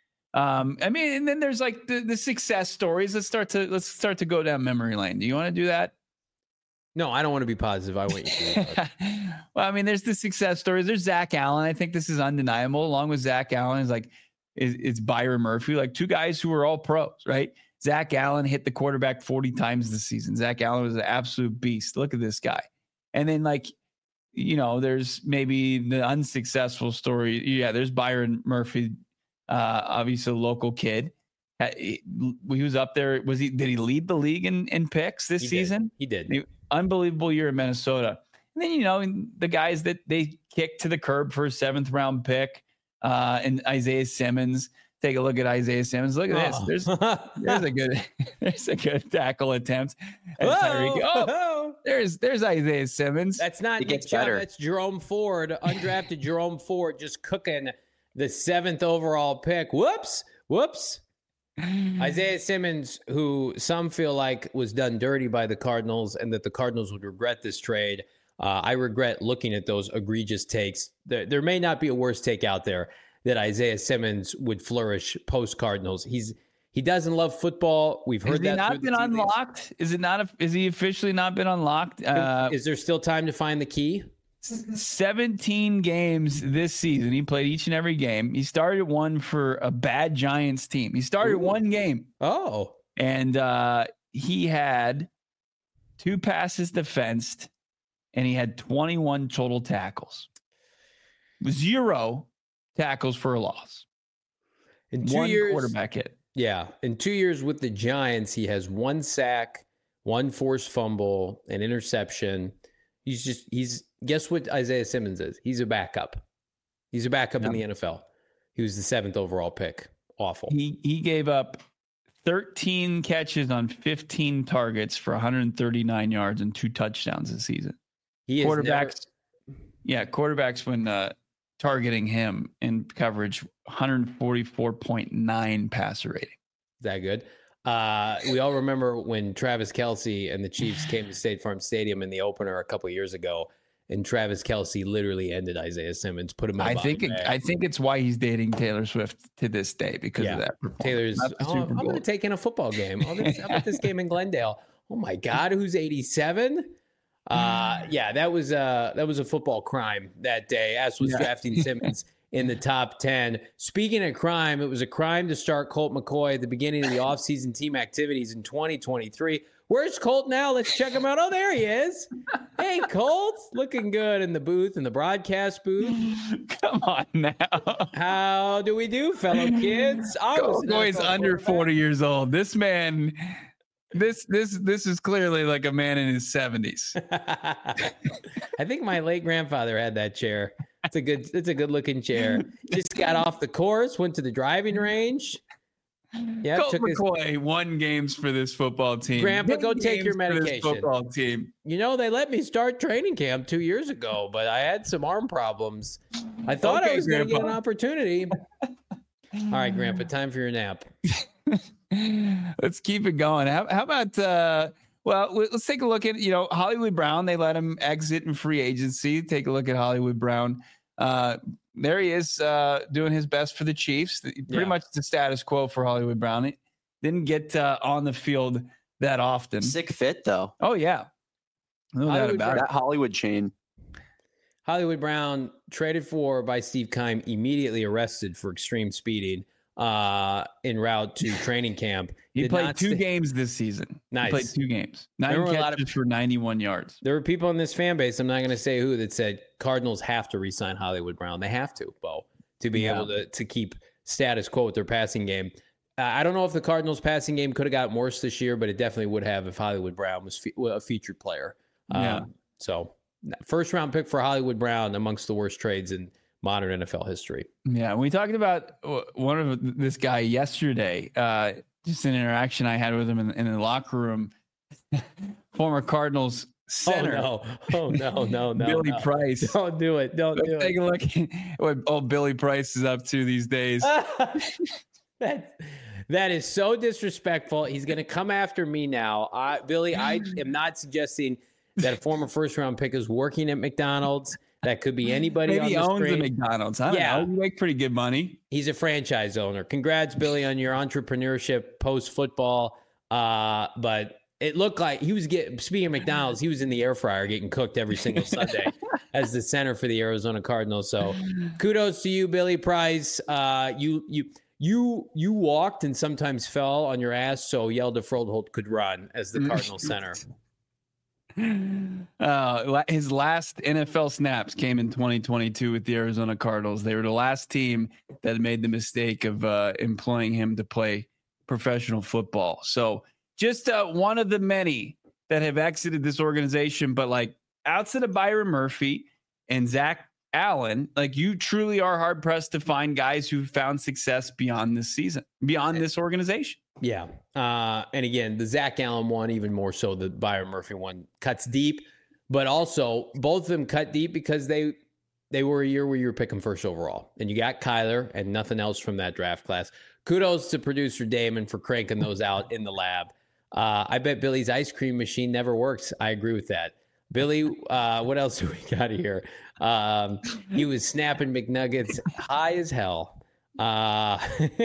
Um, I mean, and then there's like the, the success stories. Let's start to, let's start to go down memory lane. Do you want to do that? No, I don't want to be positive. I want you to. Well, I mean, there's the success stories. There's Zach Allen. I think this is undeniable. Along with Zach Allen is like, is it's Byron Murphy, like two guys who are all pros, right? Zach Allen hit the quarterback forty times this season. Zach Allen was an absolute beast. Look at this guy. And then like, you know, there's maybe the unsuccessful story. Yeah, there's Byron Murphy, uh, obviously a local kid. He was up there. Was he? Did he lead the league in, in picks this he season? Did. He did. He, unbelievable year in Minnesota. And then, you know, the guys that they kicked to the curb for a seventh round pick, uh, and Isaiah Simmons. Take a look at Isaiah Simmons. Look at oh. this. There's there's a good there's a good tackle attempt. Whoa, oh, whoa. there's there's Isaiah Simmons. That's not it Nick gets Chubb. better. That's Jerome Ford, undrafted Jerome Ford, just cooking the seventh overall pick. Whoops, whoops. Isaiah Simmons, who some feel like was done dirty by the Cardinals and that the Cardinals would regret this trade. Uh, I regret looking at those egregious takes. There, there may not be a worse take out there that Isaiah Simmons would flourish post Cardinals. He's he doesn't love football. We've heard Has that. Has he not been unlocked? Is it not? A, is he officially not been unlocked? Uh, is there still time to find the key? seventeen games this season. He played each and every game. He started one for a bad Giants team. He started Ooh. one game. Oh, and uh, he had two passes defensed, and he had twenty-one total tackles. Zero tackles for a loss. In two one years, quarterback hit. Yeah, in two years with the Giants, he has one sack, one forced fumble, an interception. He's just he's guess what Isaiah Simmons is? He's a backup. He's a backup yeah. in the N F L. He was the seventh overall pick. Awful. He he gave up thirteen catches on fifteen targets for one hundred thirty-nine yards and two touchdowns this season. He quarterbacks, never... yeah, quarterbacks when uh, targeting him in coverage, one forty-four point nine passer rating. Is that good? Uh, we all remember when Travis Kelce and the Chiefs came to State Farm Stadium in the opener a couple of years ago, and Travis Kelce literally ended Isaiah Simmons, put him in I think it, I think it's why he's dating Taylor Swift to this day because yeah. of that. Taylor's, oh, I'm going to take in a football game. Oh, this, how about this game in Glendale? Oh my God, who's eighty-seven? Uh, yeah, that was uh that was a football crime that day, as was yeah. drafting Simmons in the top ten. Speaking of crime, it was a crime to start Colt McCoy at the beginning of the offseason team activities in twenty twenty-three. Where's Colt now? Let's check him out. Oh, there he is. Hey, Colt. Looking good in the booth, in the broadcast booth. Come on now. How do we do, fellow kids? I was Colt McCoy's under forty years old. This man, this this this is clearly like a man in his seventies. I think my late grandfather had that chair. It's a good, it's a good looking chair. Just got off the course, went to the driving range. Yeah, Colt McCoy his... won games for this football team. Grandpa, go take your medication. Football team. You know, they let me start training camp two years ago, but I had some arm problems. I thought okay, I was going to get an opportunity. All right, Grandpa, time for your nap. Let's keep it going. How, how about, uh, well, let's take a look at, you know, Hollywood Brown. They let him exit in free agency. Take a look at Hollywood Brown. Uh, there he is uh, doing his best for the Chiefs. Pretty yeah. much the status quo for Hollywood Brown. He didn't get uh, on the field that often. Sick fit, though. Oh, yeah. No doubt about that it. Hollywood chain. Hollywood Brown, traded for by Steve Keim, immediately arrested for extreme speeding uh, en route to training camp. He Did played two st- games this season. Nice. He played two games. Nine catches a lot of, for ninety-one yards. There were people in this fan base, I'm not going to say who, that said Cardinals have to re-sign Hollywood Brown. They have to, Bo, to be yeah. able to, to keep status quo with their passing game. Uh, I don't know if the Cardinals' passing game could have gotten worse this year, but it definitely would have if Hollywood Brown was fe- a featured player. Um, yeah. So, first round pick for Hollywood Brown, amongst the worst trades in modern N F L history. Yeah, we talked about one of this guy yesterday. Uh, just an interaction I had with him in, in the locker room. Former Cardinals center. Oh no! Oh no! No! No! Billy no. Price. Don't do it! Don't Let's do take it. a look at what old Billy Price is up to these days. that that is so disrespectful. He's going to come after me now. I, Billy, I am not suggesting that a former first round pick is working at McDonald's. That could be anybody. Maybe on he the owns street. a McDonald's. I don't yeah. know. You make pretty good money. He's a franchise owner. Congrats, Billy, on your entrepreneurship post football. Uh, but it looked like he was getting, speaking of McDonald's, he was in the air fryer getting cooked every single Sunday as the center for the Arizona Cardinals. So kudos to you, Billy Price. Uh, you, you, you, you walked and sometimes fell on your ass. So Yelda Froholt could run as the Cardinal center. Uh, his last N F L snaps came in twenty twenty-two with the Arizona Cardinals. They were the last team that made the mistake of uh, employing him to play professional football. So just uh, one of the many that have exited this organization. But like outside of Byron Murphy and Zach Allen, like you truly are hard pressed to find guys who found success beyond this season, beyond this organization. Yeah. Uh, and again, the Zach Allen one, even more so the Byron Murphy one, cuts deep, but also both of them cut deep because they they were a year where you were picking first overall. And you got Kyler and nothing else from that draft class. Kudos to producer Damon for cranking those out in the lab. Uh, I bet Billy's ice cream machine never works. I agree with that. Billy, uh, what else do we got here? Um, he was snapping McNuggets high as hell. Uh,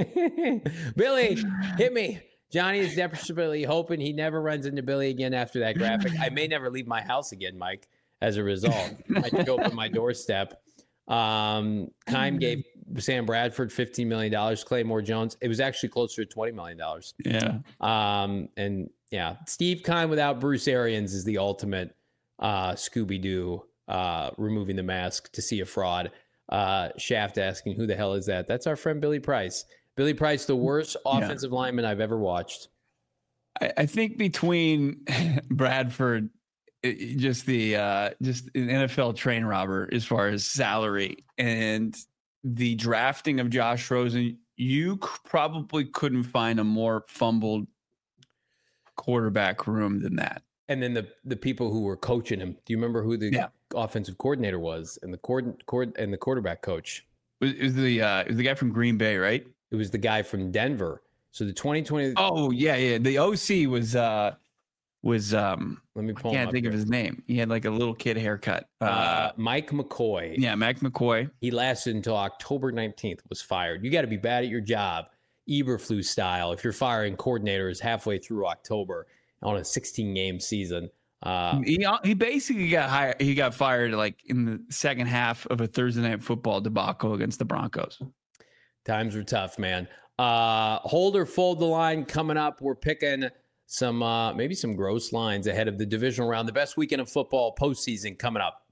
Billy, hit me. Johnny is desperately hoping he never runs into Billy again after that graphic. I may never leave my house again, Mike, as a result. I could open my doorstep. Um, Keim gave Sam Bradford fifteen million dollars. Claymore Jones, it was actually closer to twenty million dollars. Yeah. Um, and yeah, Steve Keim without Bruce Arians is the ultimate uh, Scooby-Doo, uh, removing the mask to see a fraud. Uh, Shaft asking, who the hell is that? That's our friend Billy Price. Billy Price, the worst offensive yeah. lineman I've ever watched. I, I think between Bradford, it, just the uh, just an N F L train robber as far as salary, and the drafting of Josh Rosen, you c- probably couldn't find a more fumbled quarterback room than that. And then the the people who were coaching him. Do you remember who the yeah. offensive coordinator was and the cord, cord and the quarterback coach? It was the uh, it was the guy from Green Bay, right? It was the guy from Denver. So the twenty twenty. Oh yeah, yeah. The O C was uh, was um. Let me pull. I can't him up think here. of his name. He had like a little kid haircut. Uh, Uh, Mike McCoy. Yeah, Mike McCoy. He lasted until October nineteenth. Was fired. You got to be bad at your job, Eberflus style. If you're firing coordinators halfway through October on a sixteen game season, Uh, he he basically got hired. He got fired like in the second half of a Thursday Night Football debacle against the Broncos. Times were tough, man. Uh, hold or fold the line coming up. We're picking some uh, maybe some gross lines ahead of the divisional round. The best weekend of football postseason coming up.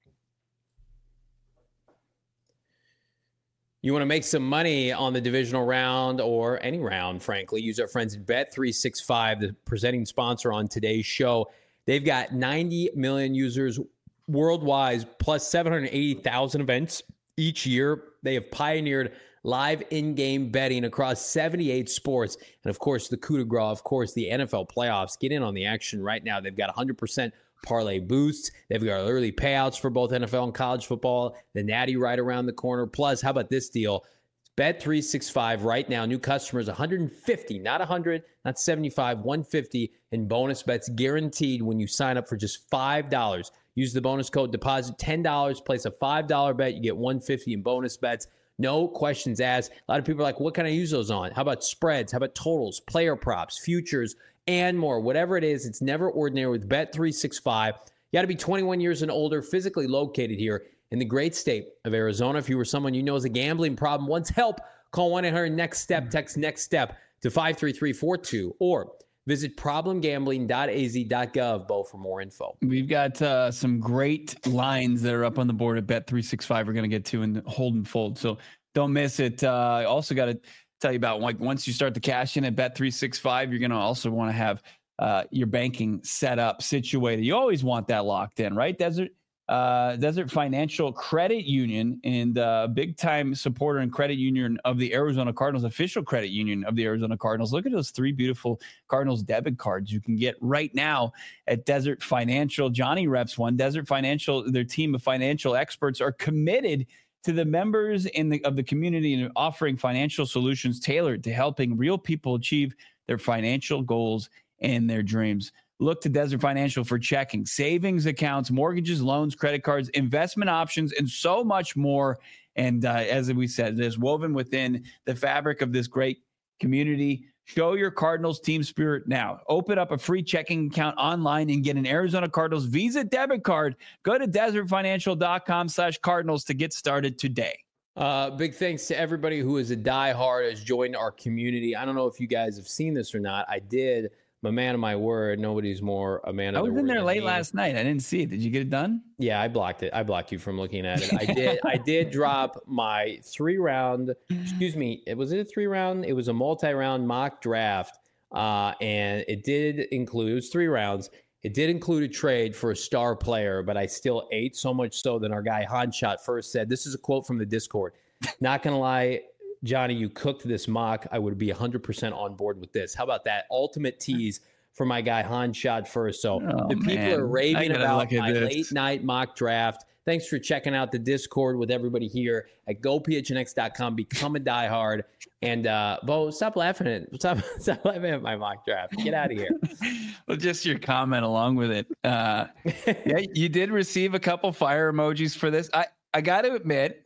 You want to make some money on the divisional round or any round, frankly, use our friends at Bet three sixty-five, the presenting sponsor on today's show. They've got ninety million users worldwide, plus seven hundred eighty thousand events each year. They have pioneered live in-game betting across seventy-eight sports. And, of course, the coup de grace, of course, the N F L playoffs. Get in on the action right now. They've got one hundred percent parlay boosts. They've got early payouts for both N F L and college football. The Natty right around the corner. Plus, how about this deal? Bet three sixty-five right now. New customers, one hundred fifty, not one hundred, not seventy-five, one hundred fifty in bonus bets guaranteed when you sign up for just five dollars. Use the bonus code deposit ten dollars, place a five dollar bet. You get one hundred fifty in bonus bets. No questions asked. A lot of people are like, what can I use those on? How about spreads? How about totals, player props, futures, and more? Whatever it is, it's never ordinary with Bet three sixty-five. You got to be twenty-one years and older, physically located here in the great state of Arizona. If you were someone you know has a gambling problem, wants help, call one eight hundred next step, text next step to five three three four two, or visit problem gambling dot a z dot gov, Bo, for more info. We've got uh, some great lines that are up on the board at Bet three sixty-five we're going to get to in hold and fold, so don't miss it. I uh, also got to tell you about, like, once you start the cash in at Bet three sixty-five, you're going to also want to have uh, your banking set up, situated. You always want that locked in, right? Desert uh, Desert Financial Credit Union, and uh, big time supporter and credit union of the Arizona Cardinals, official credit union of the Arizona Cardinals. Look at those three beautiful Cardinals debit cards you can get right now at Desert Financial. Johnny reps one. Desert Financial, their team of financial experts, are committed to the members in the of the community and offering financial solutions tailored to helping real people achieve their financial goals and their dreams. Look to Desert Financial for checking, savings accounts, mortgages, loans, credit cards, investment options, and so much more. And uh, as we said, it's woven within the fabric of this great community. Show your Cardinals team spirit now. Open up a free checking account online and get an Arizona Cardinals Visa debit card. Go to desert financial dot com slash Cardinals to get started today. Uh, big thanks to everybody who is a diehard, has joined our community. I don't know if you guys have seen this or not. I did. I'm a man of my word. Nobody's more a man of I was their in word there late me. last night. I didn't see it. Did you get it done? Yeah, I blocked it. I blocked you from looking at it. I did. I did drop my three round. Excuse me. It was it a three round? It was a multi round mock draft, uh, and it did include. It was three rounds. It did include a trade for a star player, but I still ate so much so that our guy Hanshot first said, "This is a quote from the Discord. Not gonna lie, Johnny, you cooked this mock. I would be one hundred percent on board with this. How about that ultimate tease for my guy Hanshot first?" So oh, the people man. are raving about my this. late night mock draft. Thanks for checking out the Discord with everybody here at go p h n x dot com. Become a diehard. And uh, Bo, stop laughing at stop, stop laughing at my mock draft. Get out of here. Well, just your comment along with it. Uh, yeah, you did receive a couple fire emojis for this. I, I got to admit,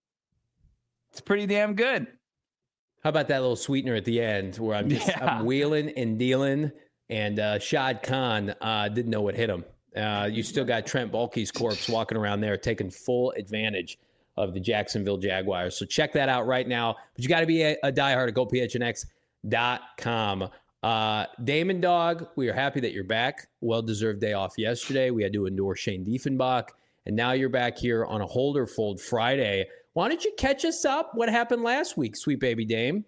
it's pretty damn good. How about that little sweetener at the end where I'm just Yeah. I'm wheeling and dealing, and uh, Shad Khan uh, didn't know what hit him. Uh, you still got Trent Baalke's corpse walking around there taking full advantage of the Jacksonville Jaguars. So check that out right now. But you got to be a, a diehard at go p h n x dot com. Uh, Damon Dog, we are happy that you're back. Well-deserved day off yesterday. We had to endure Shane Diefenbach, and now you're back here on a Hold or Fold Friday. Why don't you catch us up? What happened last week, sweet baby Dame?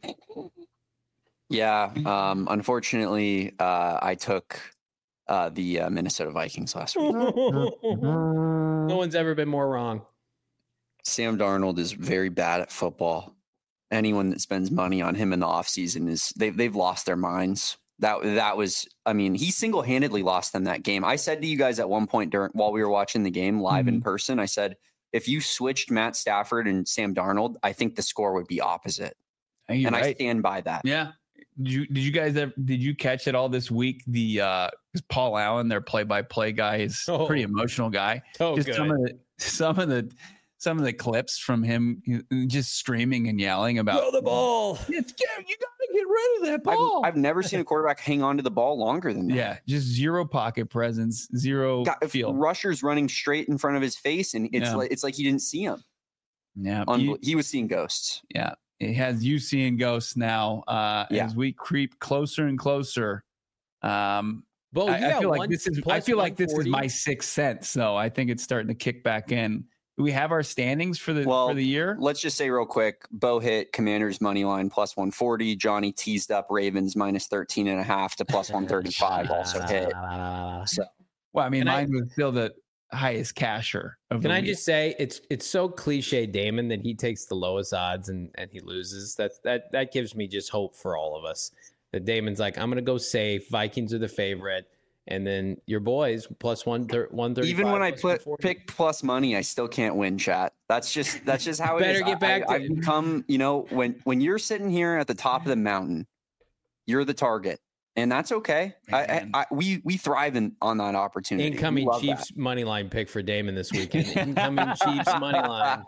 Yeah, um, unfortunately, uh, I took uh, the uh, Minnesota Vikings last week. No one's ever been more wrong. Sam Darnold is very bad at football. Anyone that spends money on him in the offseason is they've they've lost their minds. That that was, I mean, he single-handedly lost them that game. I said to you guys at one point during while we were watching the game live mm-hmm. in person, I said, if you switched Matt Stafford and Sam Darnold, I think the score would be opposite. And right. I stand by that. Yeah. Did you did you guys ever, did you catch it all this week? The uh Paul Allen, their play-by-play guy, is oh. a pretty emotional guy. Oh, just good. some of the some of the some of the clips from him just screaming and yelling about throw the ball. It's, you gotta get rid of that ball. I've, I've never seen a quarterback hang on to the ball longer than that. Yeah, just zero pocket presence, zero Got, feel. Rushers running straight in front of his face, and it's Yeah. like it's like he didn't see him. Yeah, Unbel- you- he was seeing ghosts. yeah. It has you seeing ghosts now uh, Yeah. as we creep closer and closer. Um, Bo, I, you I got feel like one this is. I plus feel like this is one forty. my sixth sense. So I think it's starting to kick back in. Do we have our standings for the Well, for the year? Let's just say real quick, Bo hit Commanders money line plus one forty. Johnny teased up Ravens minus thirteen and a half to plus one thirty-five also hit. So Well, I mean, Can I- mine was still the highest casher of Can the I week. just say it's it's so cliche, Damon, that he takes the lowest odds and, and he loses. That that that gives me just hope for all of us. That Damon's like, I'm gonna go safe. Vikings are the favorite, and then your boys plus one one thirty. even when I put pick plus money, I still can't win, chat. That's just that's just how it Better is. get back I, to I've it. become, you know, when when you're sitting here at the top of the mountain, you're the target. And that's okay. I, I, Man. I we we thrive in, on that opportunity. We incoming love Chiefs money line pick for Damon this weekend. Incoming Chiefs money line.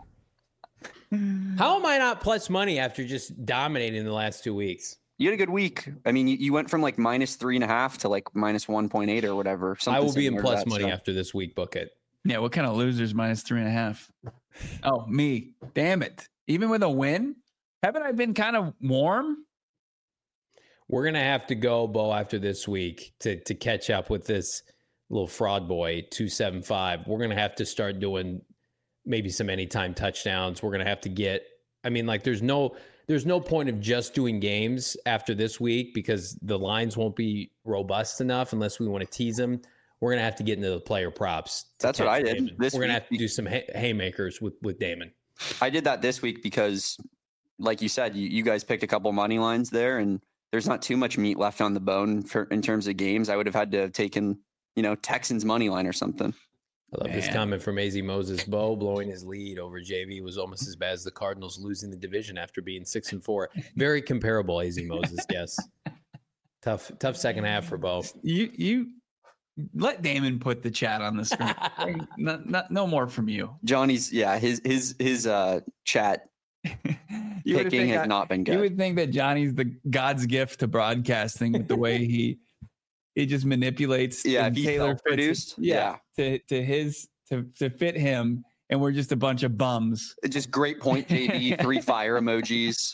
How am I not plus money after just dominating the last two weeks? You had a good week. I mean, you, you went from like minus three and a half to like minus one point eight or whatever. I something will be in similar to plus that, money so. after this week. Book it. Yeah, what kind of losers minus three and a half? Oh, me. Damn it. Even with a win? Haven't I been kind of warm? We're gonna have to go, Bo, after this week to to catch up with this little fraud boy two seven five. We're gonna have to start doing maybe some anytime touchdowns. We're gonna have to get. I mean, like, there's no there's no point of just doing games after this week because the lines won't be robust enough unless we want to tease them. We're gonna have to get into the player props. to That's what catch I did Damon. this We're gonna week. have to do some hay- haymakers with with Damon. I did that this week because, like you said, you, you guys picked a couple money lines there, and there's not too much meat left on the bone for, in terms of games. I would have had to have taken, you know, Texans money line or something. I love this Man. comment from A Z Moses. Bo blowing his lead over J V was almost as bad as the Cardinals losing the division after being six and four. Very comparable, A Z Moses. Yes, tough, tough second half for Bo. You you let Damon put the chat on the screen. no, no, no more from you. Johnny's, yeah, his his his uh chat You would picking think has I- not been You good. would think that Johnny's the God's gift to broadcasting with the way he he just manipulates. Yeah, and if he's Taylor fits it- self-produced, Yeah, to to his to to fit him, and we're just a bunch of bums. Just great point, J B. Three fire emojis.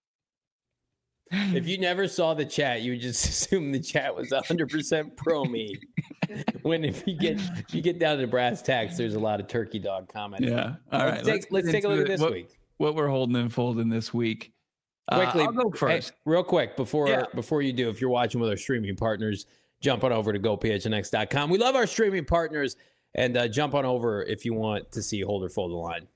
If you never saw the chat, you would just assume the chat was one hundred percent pro me. When if you get if you get down to brass tacks, there's a lot of turkey dog commenting. Yeah. All right. Let's take, let's get take a into look at the- this what, week. What we're holding and folding this week. Uh, Quickly, I'll go hey, first. real quick before Yeah. before you do, if you're watching with our streaming partners, jump on over to go p h n x dot com. We love our streaming partners, and uh, jump on over if you want to see hold or fold the line.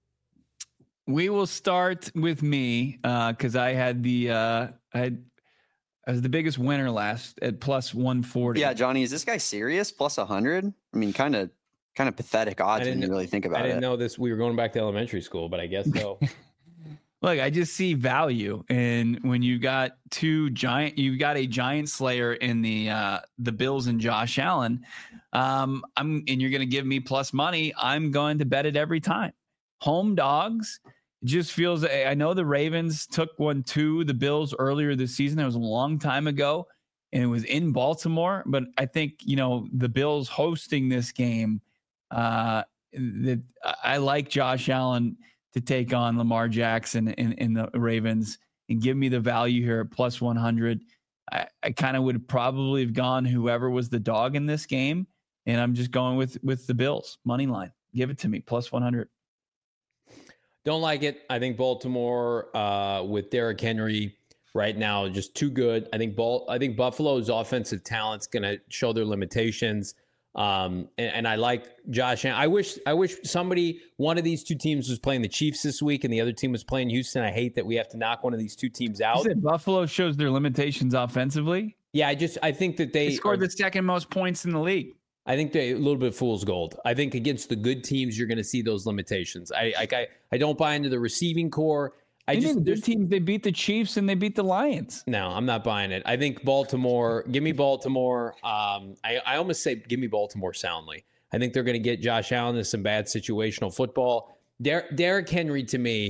We will start with me because I had the uh, I had I was the biggest winner last at plus one forty. Yeah, Johnny, is this guy serious? Plus a hundred? I mean, kind of kind of pathetic odds when didn't- you really think about I didn't it. know this. We were going back to elementary school, but I guess so. Look, I just see value, and when you got two giant, you got a giant slayer in the uh, the Bills and Josh Allen. Um, I'm and you're going to give me plus money. I'm going to bet it every time. Home dogs. It just feels. I know the Ravens took one to the Bills earlier this season. That was a long time ago, and it was in Baltimore. But I think you know the Bills hosting this game. Uh, that I like Josh Allen to take on Lamar Jackson in, in the Ravens and give me the value here at plus one hundred. I, I kind of would probably have gone whoever was the dog in this game, and I'm just going with with the Bills money line. Give it to me plus one hundred. Don't like it. I think Baltimore uh, with Derrick Henry right now just too good. I think Bal- I think Buffalo's offensive talent's going to show their limitations. Um, and, and I like Josh. I wish I wish somebody one of these two teams was playing the Chiefs this week, and the other team was playing Houston. I hate that we have to knock one of these two teams You out. said Buffalo shows their limitations offensively. Yeah, I just I think that they, They scored are- the second most points in the league. I think they a little bit fool's gold. I think against the good teams, you're going to see those limitations. I I I, I don't buy into the receiving core. I They just didn't. there's- Good teams. They beat the Chiefs and they beat the Lions. No, I'm not buying it. I think Baltimore, give me Baltimore. Um, I, I almost say give me Baltimore soundly. I think they're going to get Josh Allen into some bad situational football. Der- Derrick Henry, to me,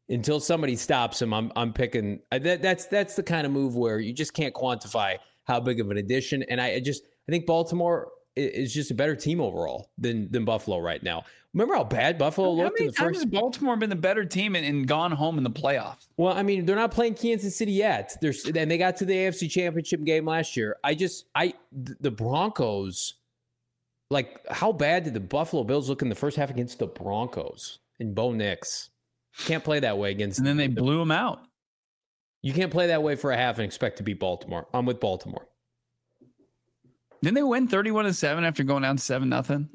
until somebody stops him, I'm I'm picking. That, that's that's the kind of move where you just can't quantify how big of an addition. And I, I just I think Baltimore is just a better team overall than than Buffalo right now. Remember how bad Buffalo How looked many in the times first? has Baltimore been the better team and, and gone home in the playoffs? Well, I mean, they're not playing Kansas City yet. There's and they got to the A F C Championship game last year. I just I the Broncos, like how bad did the Buffalo Bills look in the first half against the Broncos and Bo Nix? Can't play that way against. And then they blew them out. You can't play that way for a half and expect to beat Baltimore. I'm with Baltimore. Didn't they win thirty-one to seven after going down seven nothing?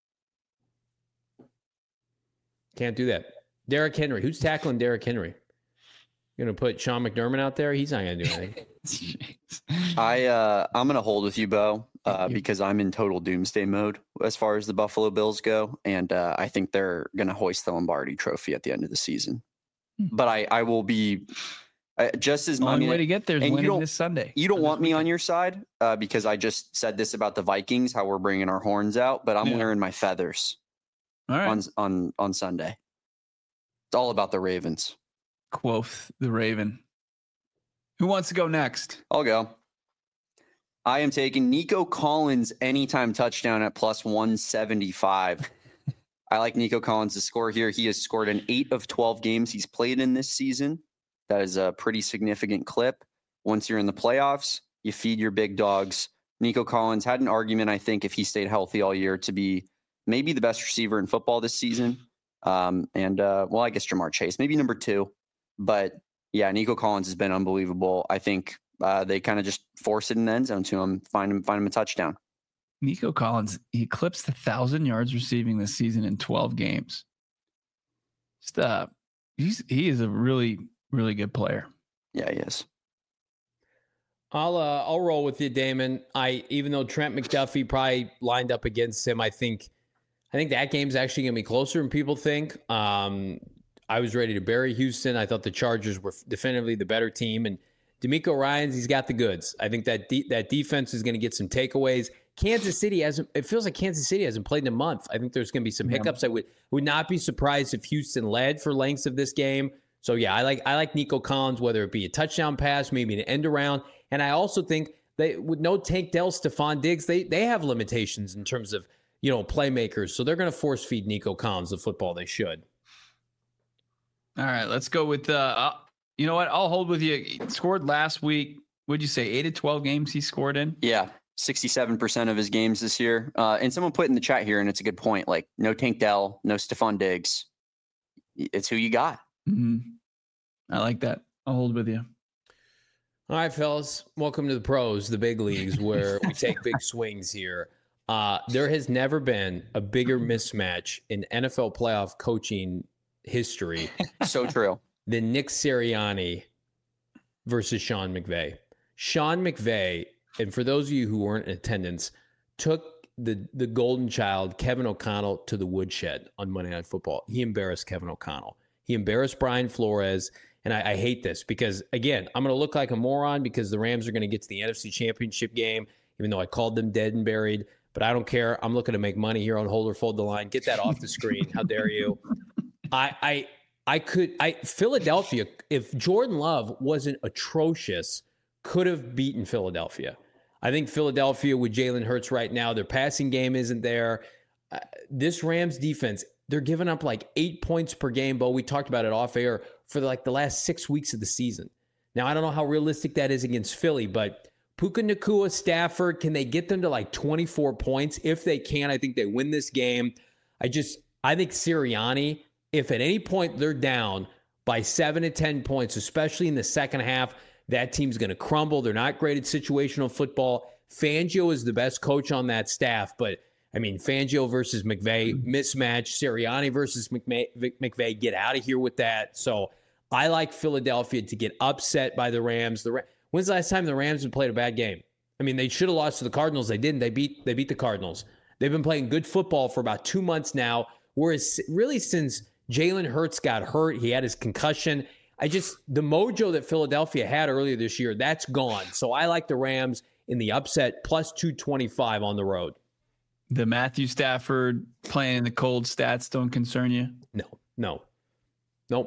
Can't do that. Derrick Henry. Who's tackling Derrick Henry? You're going to put Sean McDermott out there? He's not going to do anything. I uh, I'm gonna hold with you, Bo, uh, because I'm in total doomsday mode as far as the Buffalo Bills go, and uh, I think they're gonna hoist the Lombardi Trophy at the end of the season. But I I will be uh, just as The only I mean, way to get there is and you winning don't- this Sunday. You don't Or want this me on weekend. your side uh, because I just said this about the Vikings, how we're bringing our horns out, but I'm Yeah. wearing my feathers All right. on on on Sunday. It's all about the Ravens. Quoth the Raven. Who wants to go next? I'll go. I am taking Nico Collins anytime touchdown at plus one seventy-five. I like Nico Collins to score here. He has scored in eight of twelve games he's played in this season. That is a pretty significant clip. Once you're in the playoffs, you feed your big dogs. Nico Collins had an argument, I think, if he stayed healthy all year, to be maybe the best receiver in football this season. Um, and, uh, well, I guess Jamar Chase, maybe number two. But, yeah, Nico Collins has been unbelievable. I think uh, they kind of just force it in the end zone to him, find him, find him a touchdown. Nico Collins, he eclipsed a thousand yards receiving this season in twelve games. Just, uh, he's he is a really, really good player. Yeah, he is. I'll uh, I'll roll with you, Damon. I even though Trent McDuffie probably lined up against him, I think I think that game's actually gonna be closer than people think. Um, I was ready to bury Houston. I thought the Chargers were definitively the better team, and D'Amico Ryans, he's got the goods. I think that de- that defense is going to get some takeaways. Kansas City hasn't. It feels like Kansas City hasn't played in a month. I think there's going to be some hiccups. I would would not be surprised if Houston led for lengths of this game. So yeah, I like I like Nico Collins, whether it be a touchdown pass, maybe an end around, and I also think they with no Tank Dell, Stephon Diggs, they they have limitations in terms of you know playmakers. So they're going to force feed Nico Collins the football. They should. All right, let's go with, uh, uh, you know what? I'll hold with you. He scored last week. What'd you say? eight of twelve games he scored in? Yeah, sixty-seven percent of his games this year. Uh, and someone put in the chat here, and it's a good point, like no Tank Dell, no Stephon Diggs. It's who you got. Mm-hmm. I like that. I'll hold with you. All right, fellas. Welcome to the pros, the big leagues, where we take big swings here. Uh, there has never been a bigger mismatch in N F L playoff coaching history So true. than Nick Sirianni versus Sean McVay. Sean McVay, and for those of you who weren't in attendance, took the, the golden child, Kevin O'Connell, to the woodshed on Monday Night Football. He embarrassed Kevin O'Connell. He embarrassed Brian Flores. And I, I hate this because, again, I'm going to look like a moron because the Rams are going to get to the N F C Championship game, even though I called them dead and buried. But I don't care. I'm looking to make money here on Hold or Fold the Line. Get that off the screen. How dare you? I, I, I could, I, Philadelphia, if Jordan Love wasn't atrocious, could have beaten Philadelphia. I think Philadelphia with Jalen Hurts right now, their passing game isn't there. Uh, this Rams defense, they're giving up like eight points per game, Bo. We talked about it off air for like the last six weeks of the season. Now, I don't know how realistic that is against Philly, but Puka Nacua, Stafford, can they get them to like twenty-four points? If they can, I think they win this game. I just, I think Sirianni, if at any point they're down by seven to ten points, especially in the second half, that team's going to crumble. They're not great at situational football. Fangio is the best coach on that staff, but I mean, Fangio versus McVay, mismatch. Sirianni versus McVay, McVay, get out of here with that. So I like Philadelphia to get upset by the Rams. The When's the last time the Rams have played a bad game? I mean, they should have lost to the Cardinals. They didn't. They beat they beat the Cardinals. They've been playing good football for about two months now, whereas really since Jalen Hurts got hurt, he had his concussion. I just, the mojo that Philadelphia had earlier this year, that's gone. So I like the Rams in the upset, plus two twenty-five on the road. The Matthew Stafford playing in the cold stats don't concern you? No, no, nope.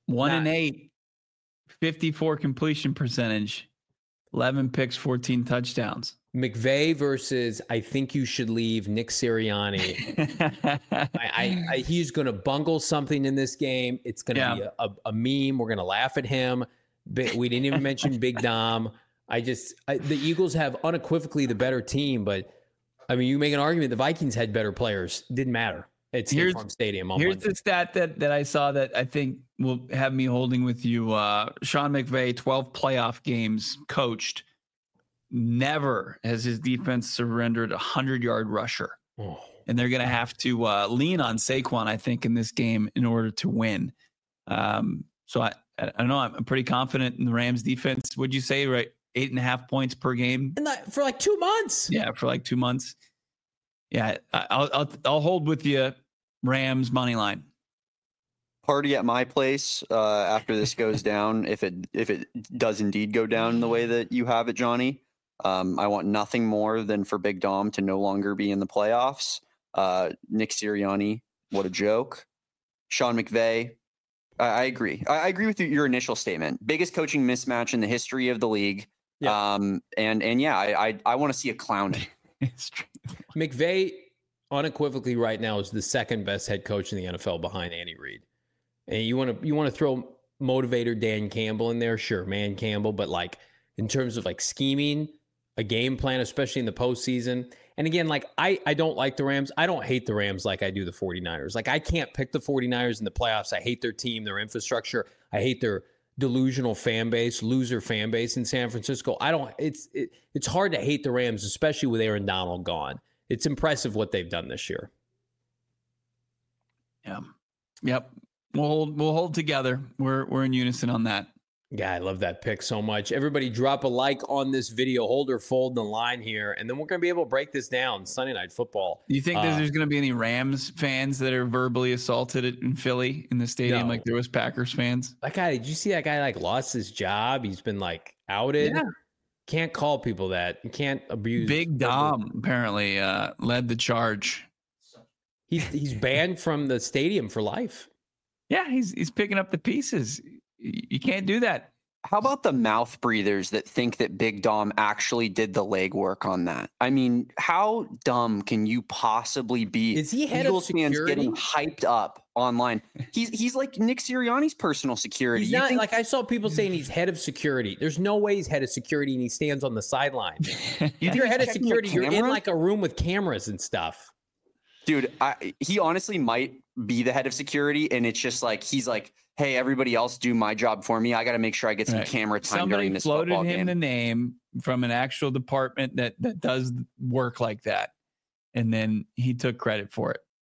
One Nah. and eight, fifty-four completion percentage, eleven picks, fourteen touchdowns. McVay versus I think you should leave Nick Sirianni. I, I, I he's going to bungle something in this game. It's going to Yeah. be a, a, a meme. We're going to laugh at him. Bi- We didn't even mention Big Dom. I just I, the Eagles have unequivocally the better team, but I mean, you make an argument the Vikings had better players. Didn't matter. It's State Here's- Farm Stadium on Here's Monday. the stat that, that I saw that I think will have me holding with you. Uh, Sean McVay, twelve playoff games coached. Never has his defense surrendered a hundred-yard rusher. Oh. And they're going to have to uh, lean on Saquon, I think, in this game in order to win. Um, so I, I don't know. I'm pretty confident in the Rams defense. Would you say, right? Eight and a half points per game? And that, for like two months. Yeah, for like two months. Yeah, I- I'll I'll, I'll hold with you, Rams money line. Party at my place uh, after this goes down. If it if it does indeed go down the way that you have it, Johnny, um, I want nothing more than for Big Dom to no longer be in the playoffs. Uh, Nick Sirianni, what a joke. Sean McVay, I, I agree. I, I agree with you, your initial statement. Biggest coaching mismatch in the history of the league. Yeah. Um, and and yeah, I I, I want to see a clowning. It's true. McVay unequivocally right now is the second best head coach in the N F L behind Andy Reid. And you want to you want to throw motivator Dan Campbell in there, sure, man Campbell, but like in terms of like scheming a game plan, especially in the postseason. And again, like I I don't like the Rams. I don't hate the Rams like I do the 49ers. Like I can't pick the 49ers in the playoffs. I hate their team, their infrastructure. I hate their delusional fan base, loser fan base in San Francisco. I don't it's it, it's hard to hate the Rams, especially with Aaron Donald gone. It's impressive what they've done this year. Yeah. Yep. We'll hold we'll hold together. We're we're in unison on that. Yeah, I love that pick so much. Everybody drop a like on this video. Hold or fold the line here, and then we're going to be able to break this down. Sunday Night Football. Do you think Uh, that there's going to be any Rams fans that are verbally assaulted in Philly in the stadium No. like there was Packers fans? That guy, did you see that guy like lost his job? He's been like outed. Yeah. Can't call people that. You can't abuse. Big Dom apparently uh, led the charge. He's, he's banned from the stadium for life. Yeah, he's he's picking up the pieces. Y- You can't do that. How about the mouth breathers that think that Big Dom actually did the legwork on that? I mean, how dumb can you possibly be? Is he head of Eagles fans security? getting hyped up online. He's he's like Nick Sirianni's personal security. He's You not think- like I saw people saying he's head of security. There's no way he's head of security and he stands on the sideline. If think you're he's head of checking the security, you're in camera? like a room with cameras and stuff. dude, I, he honestly might be the head of security, and it's just like he's like, hey, everybody else do my job for me. I got to make sure I get some Right. camera time Somebody during this floated football him game. the name from an actual department that that does work like that, and then he took credit for it.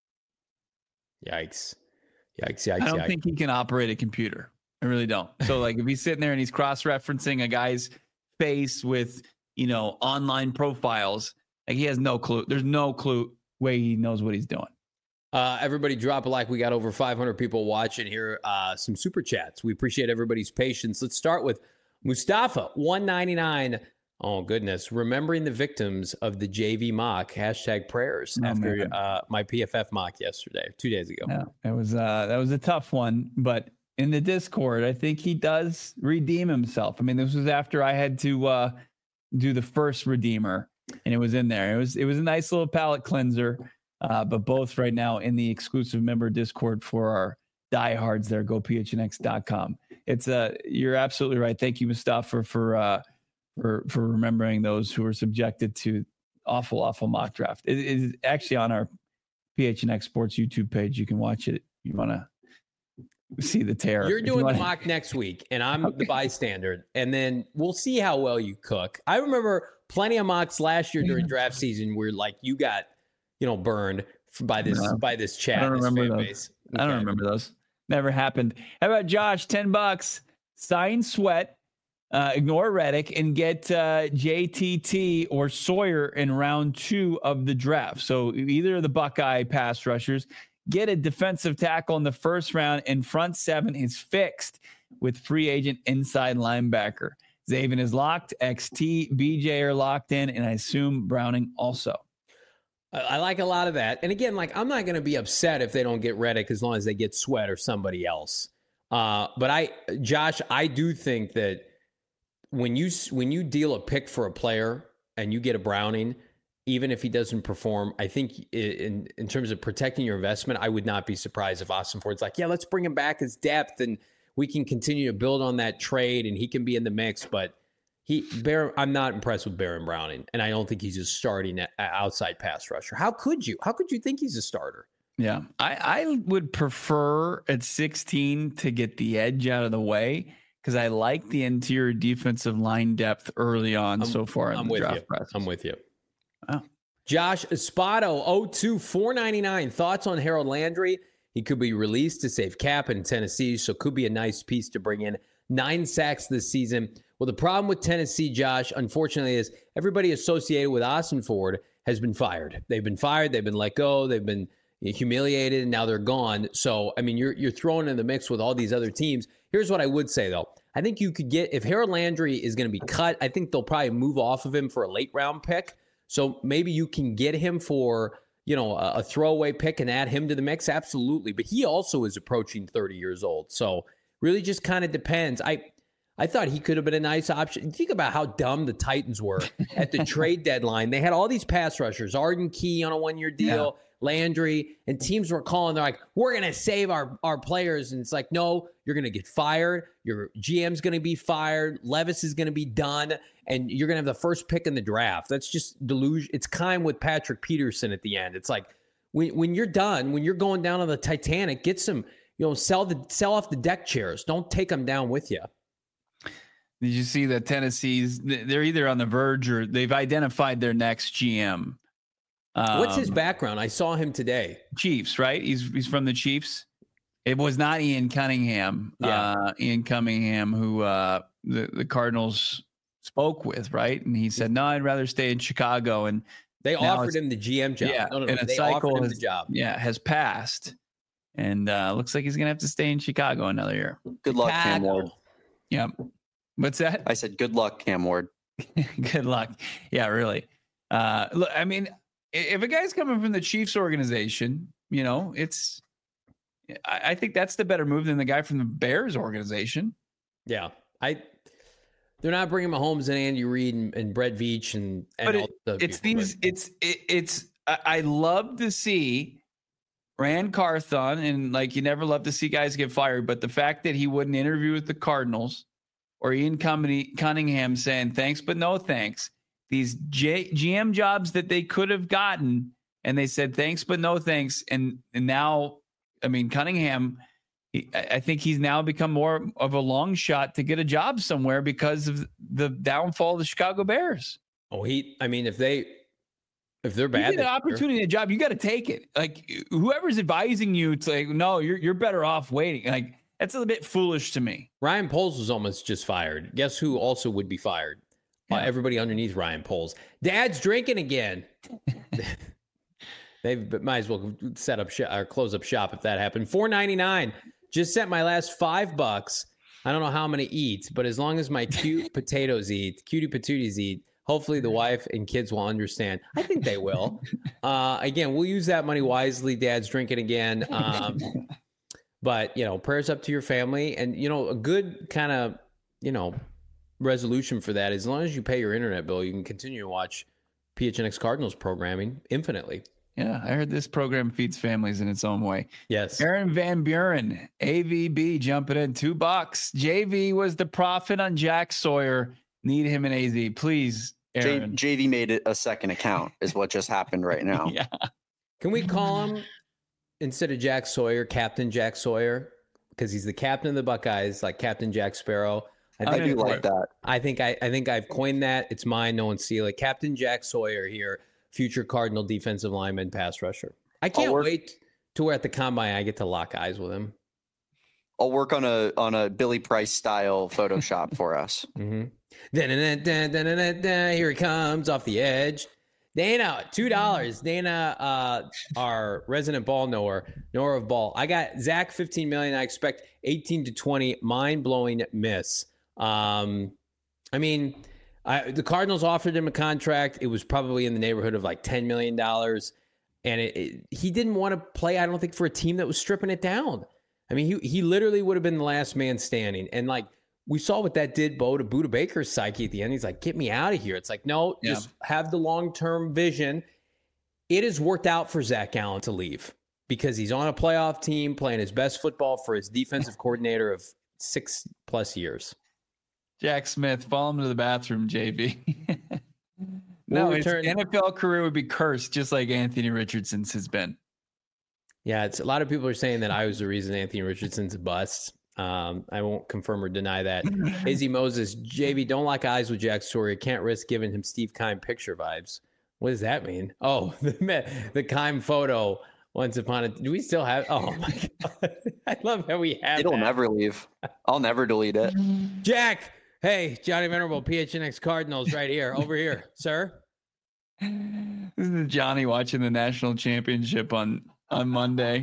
Yikes. Yikes, yikes, I don't yikes. think he can operate a computer. I really don't. So like if he's sitting there and he's cross-referencing a guy's face with, you know, online profiles, like he has no clue. There's no clue way he knows what he's doing. Uh, everybody drop a like. We got over five hundred people watching here. Uh, some super chats. We appreciate everybody's patience. Let's start with Mustafa, one ninety-nine. Oh, goodness. Remembering the victims of the J V mock, hashtag prayers Oh, after man. uh, my P F F mock yesterday, two days ago. Yeah, it was uh that was a tough one, but in the Discord, I think he does redeem himself. I mean, this was after I had to uh do the first Redeemer, and it was in there. It was it was a nice little palate cleanser. Uh, but both right now in the exclusive member Discord for our diehards there, go P H N X dot com. It's uh you're absolutely right. Thank you, Mustafa, for uh for for remembering those who were subjected to awful, awful mock draft. It is actually on our P H N X Sports YouTube page. You can watch it. You want to see the terror. You're If doing you the wanna- mock next week, and I'm the bystander, and then we'll see how well you cook. I remember plenty of mocks last year during draft season where like you got, you know, burned f- by this No. by this chat. I don't this remember fan those. base. I don't Okay. remember those. Never happened. How about Josh? ten bucks. Sign Sweat. Uh, ignore Reddick and get uh, J T T or Sawyer in round two of the draft. So either of the Buckeye pass rushers, get a defensive tackle in the first round, and front seven is fixed with free agent inside linebacker. Zaven is locked. X T, B J are locked in, and I assume Browning also. I I like a lot of that. And again, like I'm not going to be upset if they don't get Reddick as long as they get Sweat or somebody else. Uh, but I, Josh, I do think that when you when you deal a pick for a player and you get a Browning, even if he doesn't perform, I think in in terms of protecting your investment, I would not be surprised if Austin Ford's like, yeah, let's bring him back as depth and we can continue to build on that trade and he can be in the mix. But he, Baron, I'm not impressed with Baron Browning, and I don't think he's a starting outside pass rusher. How could you? How could you think he's a starter? Yeah, I, I would prefer at sixteen to get the edge out of the way because I like the interior defensive line depth early on I'm, so far in I'm the with draft you. process. I'm with you. Oh. Josh Espada, oh two, four ninety-nine. Thoughts on Harold Landry? He could be released to save cap in Tennessee, so could be a nice piece to bring in. Nine sacks this season. Well, the problem with Tennessee, Josh, unfortunately, is everybody associated with Austin Ford has been fired. They've been fired. They've been let go. They've been humiliated, and now they're gone. So, I mean, you're you're thrown in the mix with all these other teams. Here's what I would say, though. I think you could get, if Harold Landry is going to be cut, I think they'll probably move off of him for a late round pick. So maybe you can get him for, you know, a, a throwaway pick and add him to the mix. Absolutely. But he also is approaching thirty years old. So really just kind of depends. I I thought he could have been a nice option. Think about how dumb the Titans were at the trade deadline. They had all these pass rushers, Arden Key on a one-year deal, yeah. Landry, and teams were calling. They're like, we're going to save our, our players. And it's like, no, you're going to get fired. Your G M's going to be fired. Levis is going to be done. And you're going to have the first pick in the draft. That's just delusion. It's kind with Patrick Peterson at the end. It's like when, when you're done, when you're going down on the Titanic, get some, you know, sell the sell off the deck chairs. Don't take them down with you. Did you see that Tennessee's, they're either on the verge or they've identified their next G M. Um, What's his background? I saw him today. Chiefs, right? He's he's from the Chiefs. It was not Ian Cunningham. Yeah. Uh, Ian Cunningham, who uh, the, the Cardinals spoke with, right? And he said, no, I'd rather stay in Chicago. And they offered him the G M job. Yeah, no, no, no. and a They cycle offered him has, the job. Yeah, has passed. And uh, looks like he's going to have to stay in Chicago another year. Good luck, Cam Ward. Yeah. What's that? I said, good luck, Cam Ward. Good luck. Yeah, really. Uh, look, I mean, if a guy's coming from the Chiefs organization, you know, it's, I, I think that's the better move than the guy from the Bears organization. Yeah. I, they're not bringing Mahomes and Andy Reid and, and Brett Veach and, and but all it, the it's people, these, but. it's, it, it's, I, I love to see Rand Carthon, and like, you never love to see guys get fired, but the fact that he wouldn't interview with the Cardinals, or Ian Cunningham saying thanks, but no thanks. These J- G M jobs that they could have gotten, and they said thanks, but no thanks. And, and now, I mean, Cunningham, he, I think he's now become more of a long shot to get a job somewhere because of the downfall of the Chicago Bears. Oh, he, I mean, if they, if they're bad, you get an opportunity, a job, you got to take it. Like whoever's advising you, it's like, no, you're, you're better off waiting. Like, that's a bit foolish to me. Ryan Poles was almost just fired. Guess who also would be fired? Yeah. Uh, everybody underneath Ryan Poles. Dad's drinking again. They might as well set up sh- or close up shop if that happened. four ninety-nine. Just sent my last five bucks. I don't know how I'm going to eat, but as long as my cute potatoes eat, cutie patooties eat, hopefully the wife and kids will understand. I think they will. Uh, again, we'll use that money wisely. Dad's drinking again. Um, But, you know, prayers up to your family. And, you know, a good kind of, you know, resolution for that is as long as you pay your internet bill, you can continue to watch P H N X Cardinals programming infinitely. Yeah, I heard this program feeds families in its own way. Yes. Aaron Van Buren, A V B jumping in two bucks. J V was the profit on Jack Sawyer. Need him in A Z. Please, Aaron. J- JV made it a second account is what just happened right now. Yeah. Can we call him, instead of Jack Sawyer, Captain Jack Sawyer, because he's the captain of the Buckeyes, like Captain Jack Sparrow. I think I do like that. I think I, I think I've coined that. It's mine. No one steal it. Captain Jack Sawyer here, future Cardinal defensive lineman, pass rusher. I can't work, wait to where at the combine I get to lock eyes with him. I'll work on a on a Billy Price style Photoshop for us. Mm-hmm. Here he comes off the edge. Dana, two dollars. Dana, uh, our resident ball knower, knower of ball. I got Zach fifteen million. I expect eighteen to twenty. Mind blowing miss. Um, I mean, I, the Cardinals offered him a contract. It was probably in the neighborhood of like ten million dollars, and it, it, he didn't want to play. I don't think for a team that was stripping it down. I mean, he he literally would have been the last man standing. And like we saw what that did, Bo, to Budda Baker's psyche at the end. He's like, get me out of here. It's like, no, yeah. just have the long-term vision. It has worked out for Zach Allen to leave because he's on a playoff team playing his best football for his defensive coordinator of six plus years. Jack Smith, follow him to the bathroom, J B. No, his N F L career would be cursed just like Anthony Richardson's has been. Yeah, it's a lot of people are saying that I was the reason Anthony Richardson's a bust. Um, I won't confirm or deny that. Izzy Moses, J B, don't lock eyes with Jack Sawyer. Can't risk giving him Steve Keim picture vibes. What does that mean? Oh, the, the Keim photo once upon a... Do we still have... Oh, my God. I love how we have It'll that. never leave. I'll never delete it. Jack, hey, Johnny Venerable, P H N X Cardinals right here. Over here, sir. This is Johnny watching the national championship on, on Monday.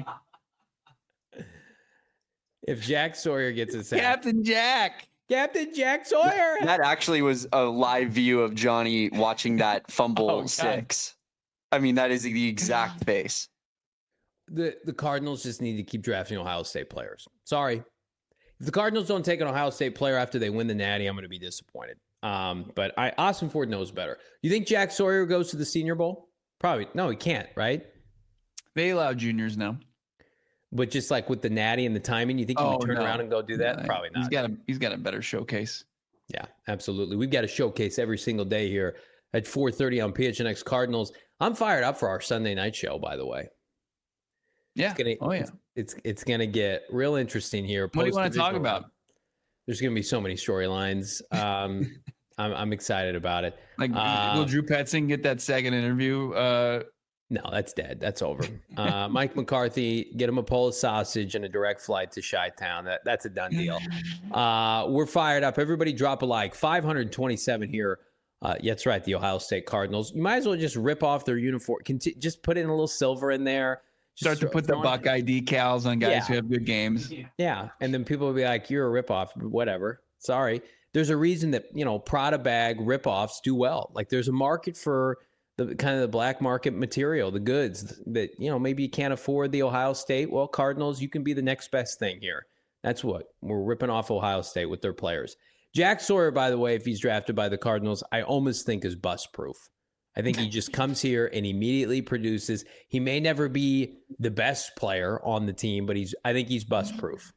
If Jack Sawyer gets a sack. Captain Jack. Captain Jack Sawyer. That actually was a live view of Johnny watching that fumble Oh, six. I mean, that is the exact face. The the Cardinals just need to keep drafting Ohio State players. Sorry. If the Cardinals don't take an Ohio State player after they win the Natty, I'm going to be disappointed. Um, but I, Austin Ford knows better. You think Jack Sawyer goes to the Senior Bowl? Probably. No, he can't, right? They allow juniors now. But just like with the Natty and the timing, you think he Oh, would turn no. around and go do that? No, Probably not. He's got a he's got a better showcase. Yeah, absolutely. We've got a showcase every single day here at four thirty on P H N X Cardinals. I'm fired up for our Sunday night show, by the way. Yeah. It's gonna, oh yeah. It's it's, it's going to get real interesting here. What do you want to talk Post-divisional about? round. There's going to be so many storylines. Um, I'm I'm excited about it. Like, Uh, will Drew Petzing get that second interview? Uh, No, that's dead. That's over. Uh, Mike McCarthy, get him a Polish sausage and a direct flight to Chi-Town. That, that's a done deal. Uh, we're fired up. Everybody drop a like. five hundred twenty-seven here. Uh, yeah, that's right, the Ohio State Cardinals. You might as well just rip off their uniform. Conti- just put in a little silver in there. Just Start to put the Buckeye decals on guys Yeah. who have good games. Yeah, and then people will be like, you're a ripoff. Whatever. Sorry. There's a reason that, you know, Prada bag ripoffs do well. Like there's a market for the kind of the black market material, the goods that, you know, maybe you can't afford the Ohio State. Well, Cardinals, you can be the next best thing here. That's what we're ripping off Ohio State with their players. Jack Sawyer, by the way, if he's drafted by the Cardinals, I almost think is bust proof. I think he just comes here and immediately produces. He may never be the best player on the team, but he's, I think he's bust proof.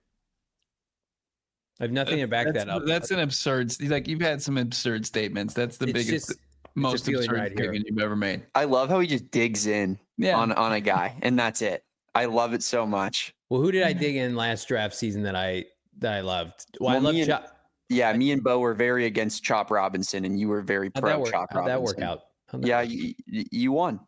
I have nothing to back that's, that up. That's an absurd. Like you've had some absurd statements. That's the It's biggest, just- most feeling absurd right here. statement you've ever made. I love how he just digs in Yeah. on, on a guy, and that's it. I love it so much. Well, who did I dig in last draft season that I that I loved? Well, I Well, love me and- Chop. Yeah, me and Bo were very against Chop Robinson, and you were very How'd pro that work? Chop How'd Robinson. that work out? How'd that- Yeah, you, you won.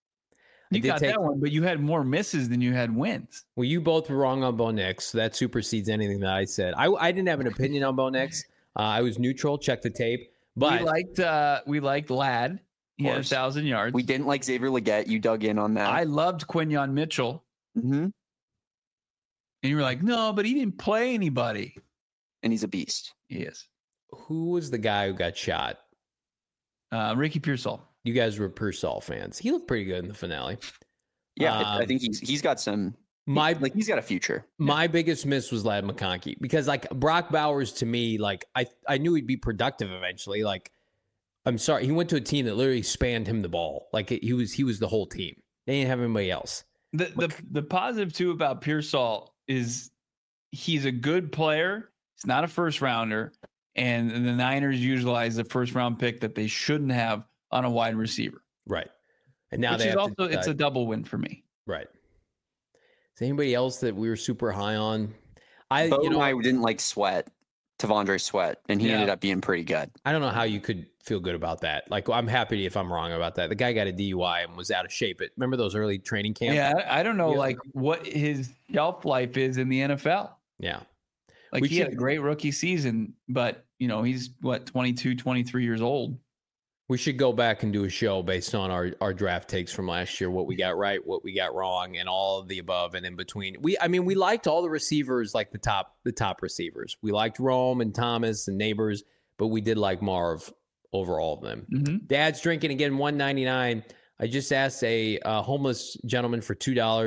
I You did got take- that one, but you had more misses than you had wins. Well, you both were wrong on Bo Nix, so that supersedes anything that I said. I, I didn't have an opinion on Bo Nix. Uh, I was neutral. Check the tape. But we liked uh, we liked Ladd. He had a course. thousand yards. We didn't like Xavier Legette. You dug in on that. I loved Quinyon Mitchell, hmm and you were like, no, but he didn't play anybody. And he's a beast. He is. who was the guy who got shot? Uh, Ricky Pearsall. You guys were Pearsall fans. He looked pretty good in the finale. Yeah, I- I Um, think he's he's got some. My like he's got a future. My biggest miss was Ladd McConkey because like Brock Bowers to me, like I, I knew he'd be productive eventually. Like, I'm sorry, he went to a team that literally spanned him the ball. Like he was, he was the whole team. They didn't have anybody else. The the the positive too about Pearsall is he's a good player. He's not a first rounder, and the Niners utilize the first round pick that they shouldn't have on a wide receiver. Right. And now Which they is have also to, it's a double win for me. right. Is anybody else that we were super high on? I Bo you know and I didn't like Sweat, Tavondre Sweat, and he Yeah. ended up being pretty good. I don't know how you could feel good about that. Like I'm happy if I'm wrong about that. The guy got a D U I and was out of shape. But remember those early training camps? Yeah, I, I don't know Yeah. like what his shelf life is in the N F L. Yeah. Like We he had should- a great rookie season, but you know, he's what twenty-two, twenty-three years old. We should go back and do a show based on our, our draft takes from last year, what we got right, what we got wrong, and all of the above and in between. We, I mean, we liked all the receivers, like the top, the top receivers. We liked Rome and Thomas and Neighbors, but we did like Marv over all of them. Mm-hmm. Dad's drinking again, one ninety-nine. I just asked a uh, homeless gentleman for two dollars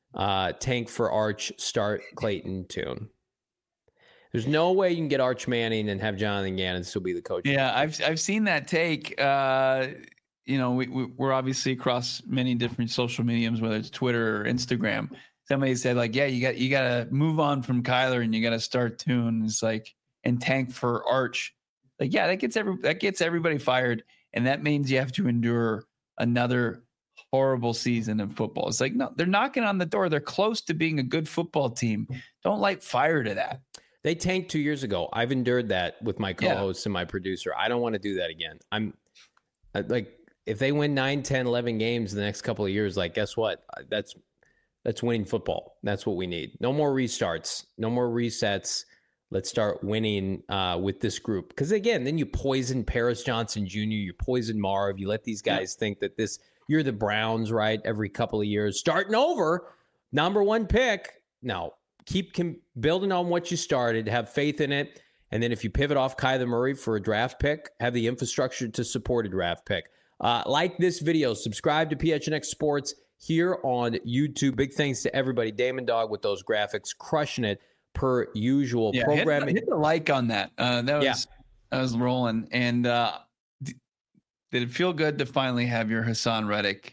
Uh, tank for Arch, start Clayton Tune. There's no way you can get Arch Manning and have Jonathan Gannon still be the coach. Yeah, I've I've seen that take. Uh, you know, we, we, we're obviously across many different social mediums, whether it's Twitter or Instagram. Somebody said like, yeah, you got you got to move on from Kyler and you got to start Tune. It's like and tank for Arch. Like, yeah, that gets every that gets everybody fired, and that means you have to endure another horrible season of football. It's like, no, they're knocking on the door. They're close to being a good football team. Don't light fire to that. They tanked two years ago. I've endured that with my co-hosts yeah. and my producer. I don't want to do that again. I'm like, if they win nine, ten, eleven games in the next couple of years, like, guess what? That's that's winning football. That's what we need. No more restarts. No more resets. Let's start winning uh, with this group. Because, again, then you poison Paris Johnson Junior You poison Marv. You let these guys yeah. think that this – you're the Browns, right, every couple of years. Starting over, number one pick. No. Keep com- building on what you started, have faith in it, and then if you pivot off Kyler Murray for a draft pick, have the infrastructure to support a draft pick. Uh, like this video, subscribe to P H N X Sports here on YouTube. Big thanks to everybody. Damon Dog with those graphics, crushing it per usual. Yeah, Programming. Hit the, hit the like on that. Uh, that was yeah. that was rolling. And uh, d- did it feel good to finally have your Hassan Reddick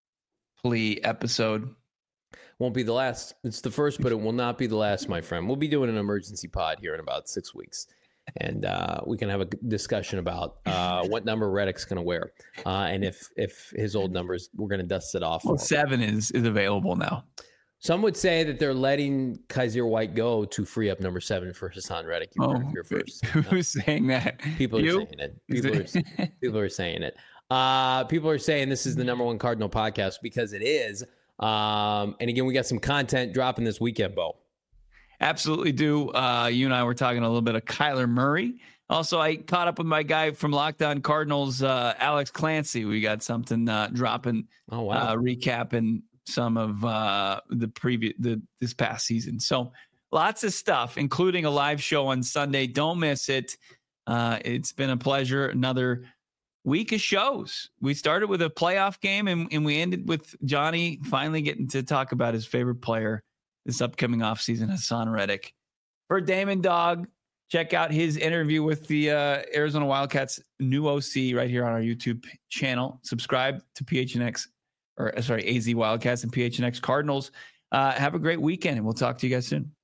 plea episode? Won't be the last. It's the first, but it will not be the last, my friend. We'll be doing an emergency pod here in about six weeks. And uh, we can have a discussion about uh, what number Reddick's going to wear. Uh, and if if his old numbers, we're going to dust it off. Well, seven is, is available now. Some would say that they're letting Kaiser White go to free up number seven for Hassan Reddick. You oh, here first. Who's no. saying that? People you? are saying it. People are, people are saying it. Uh, people are saying this is the number one Cardinal podcast because it is. Um, and again, we got some content dropping this weekend, Bo. Absolutely do. Uh, you and I were talking a little bit of Kyler Murray. Also, I caught up with my guy from Locked On Cardinals, uh, Alex Clancy. We got something uh, dropping, oh, wow. uh, recapping some of uh, the previous the this past season. So lots of stuff, including a live show on Sunday. Don't miss it. Uh, it's been a pleasure. Another week of shows. We started with a playoff game and, and we ended with Johnny finally getting to talk about his favorite player this upcoming offseason, Hassan Reddick. For Damon Dog, check out his interview with the uh, Arizona Wildcats new O C right here on our YouTube channel. Subscribe to P H N X, or sorry, A Z Wildcats and P H N X Cardinals. Uh, have a great weekend, and we'll talk to you guys soon.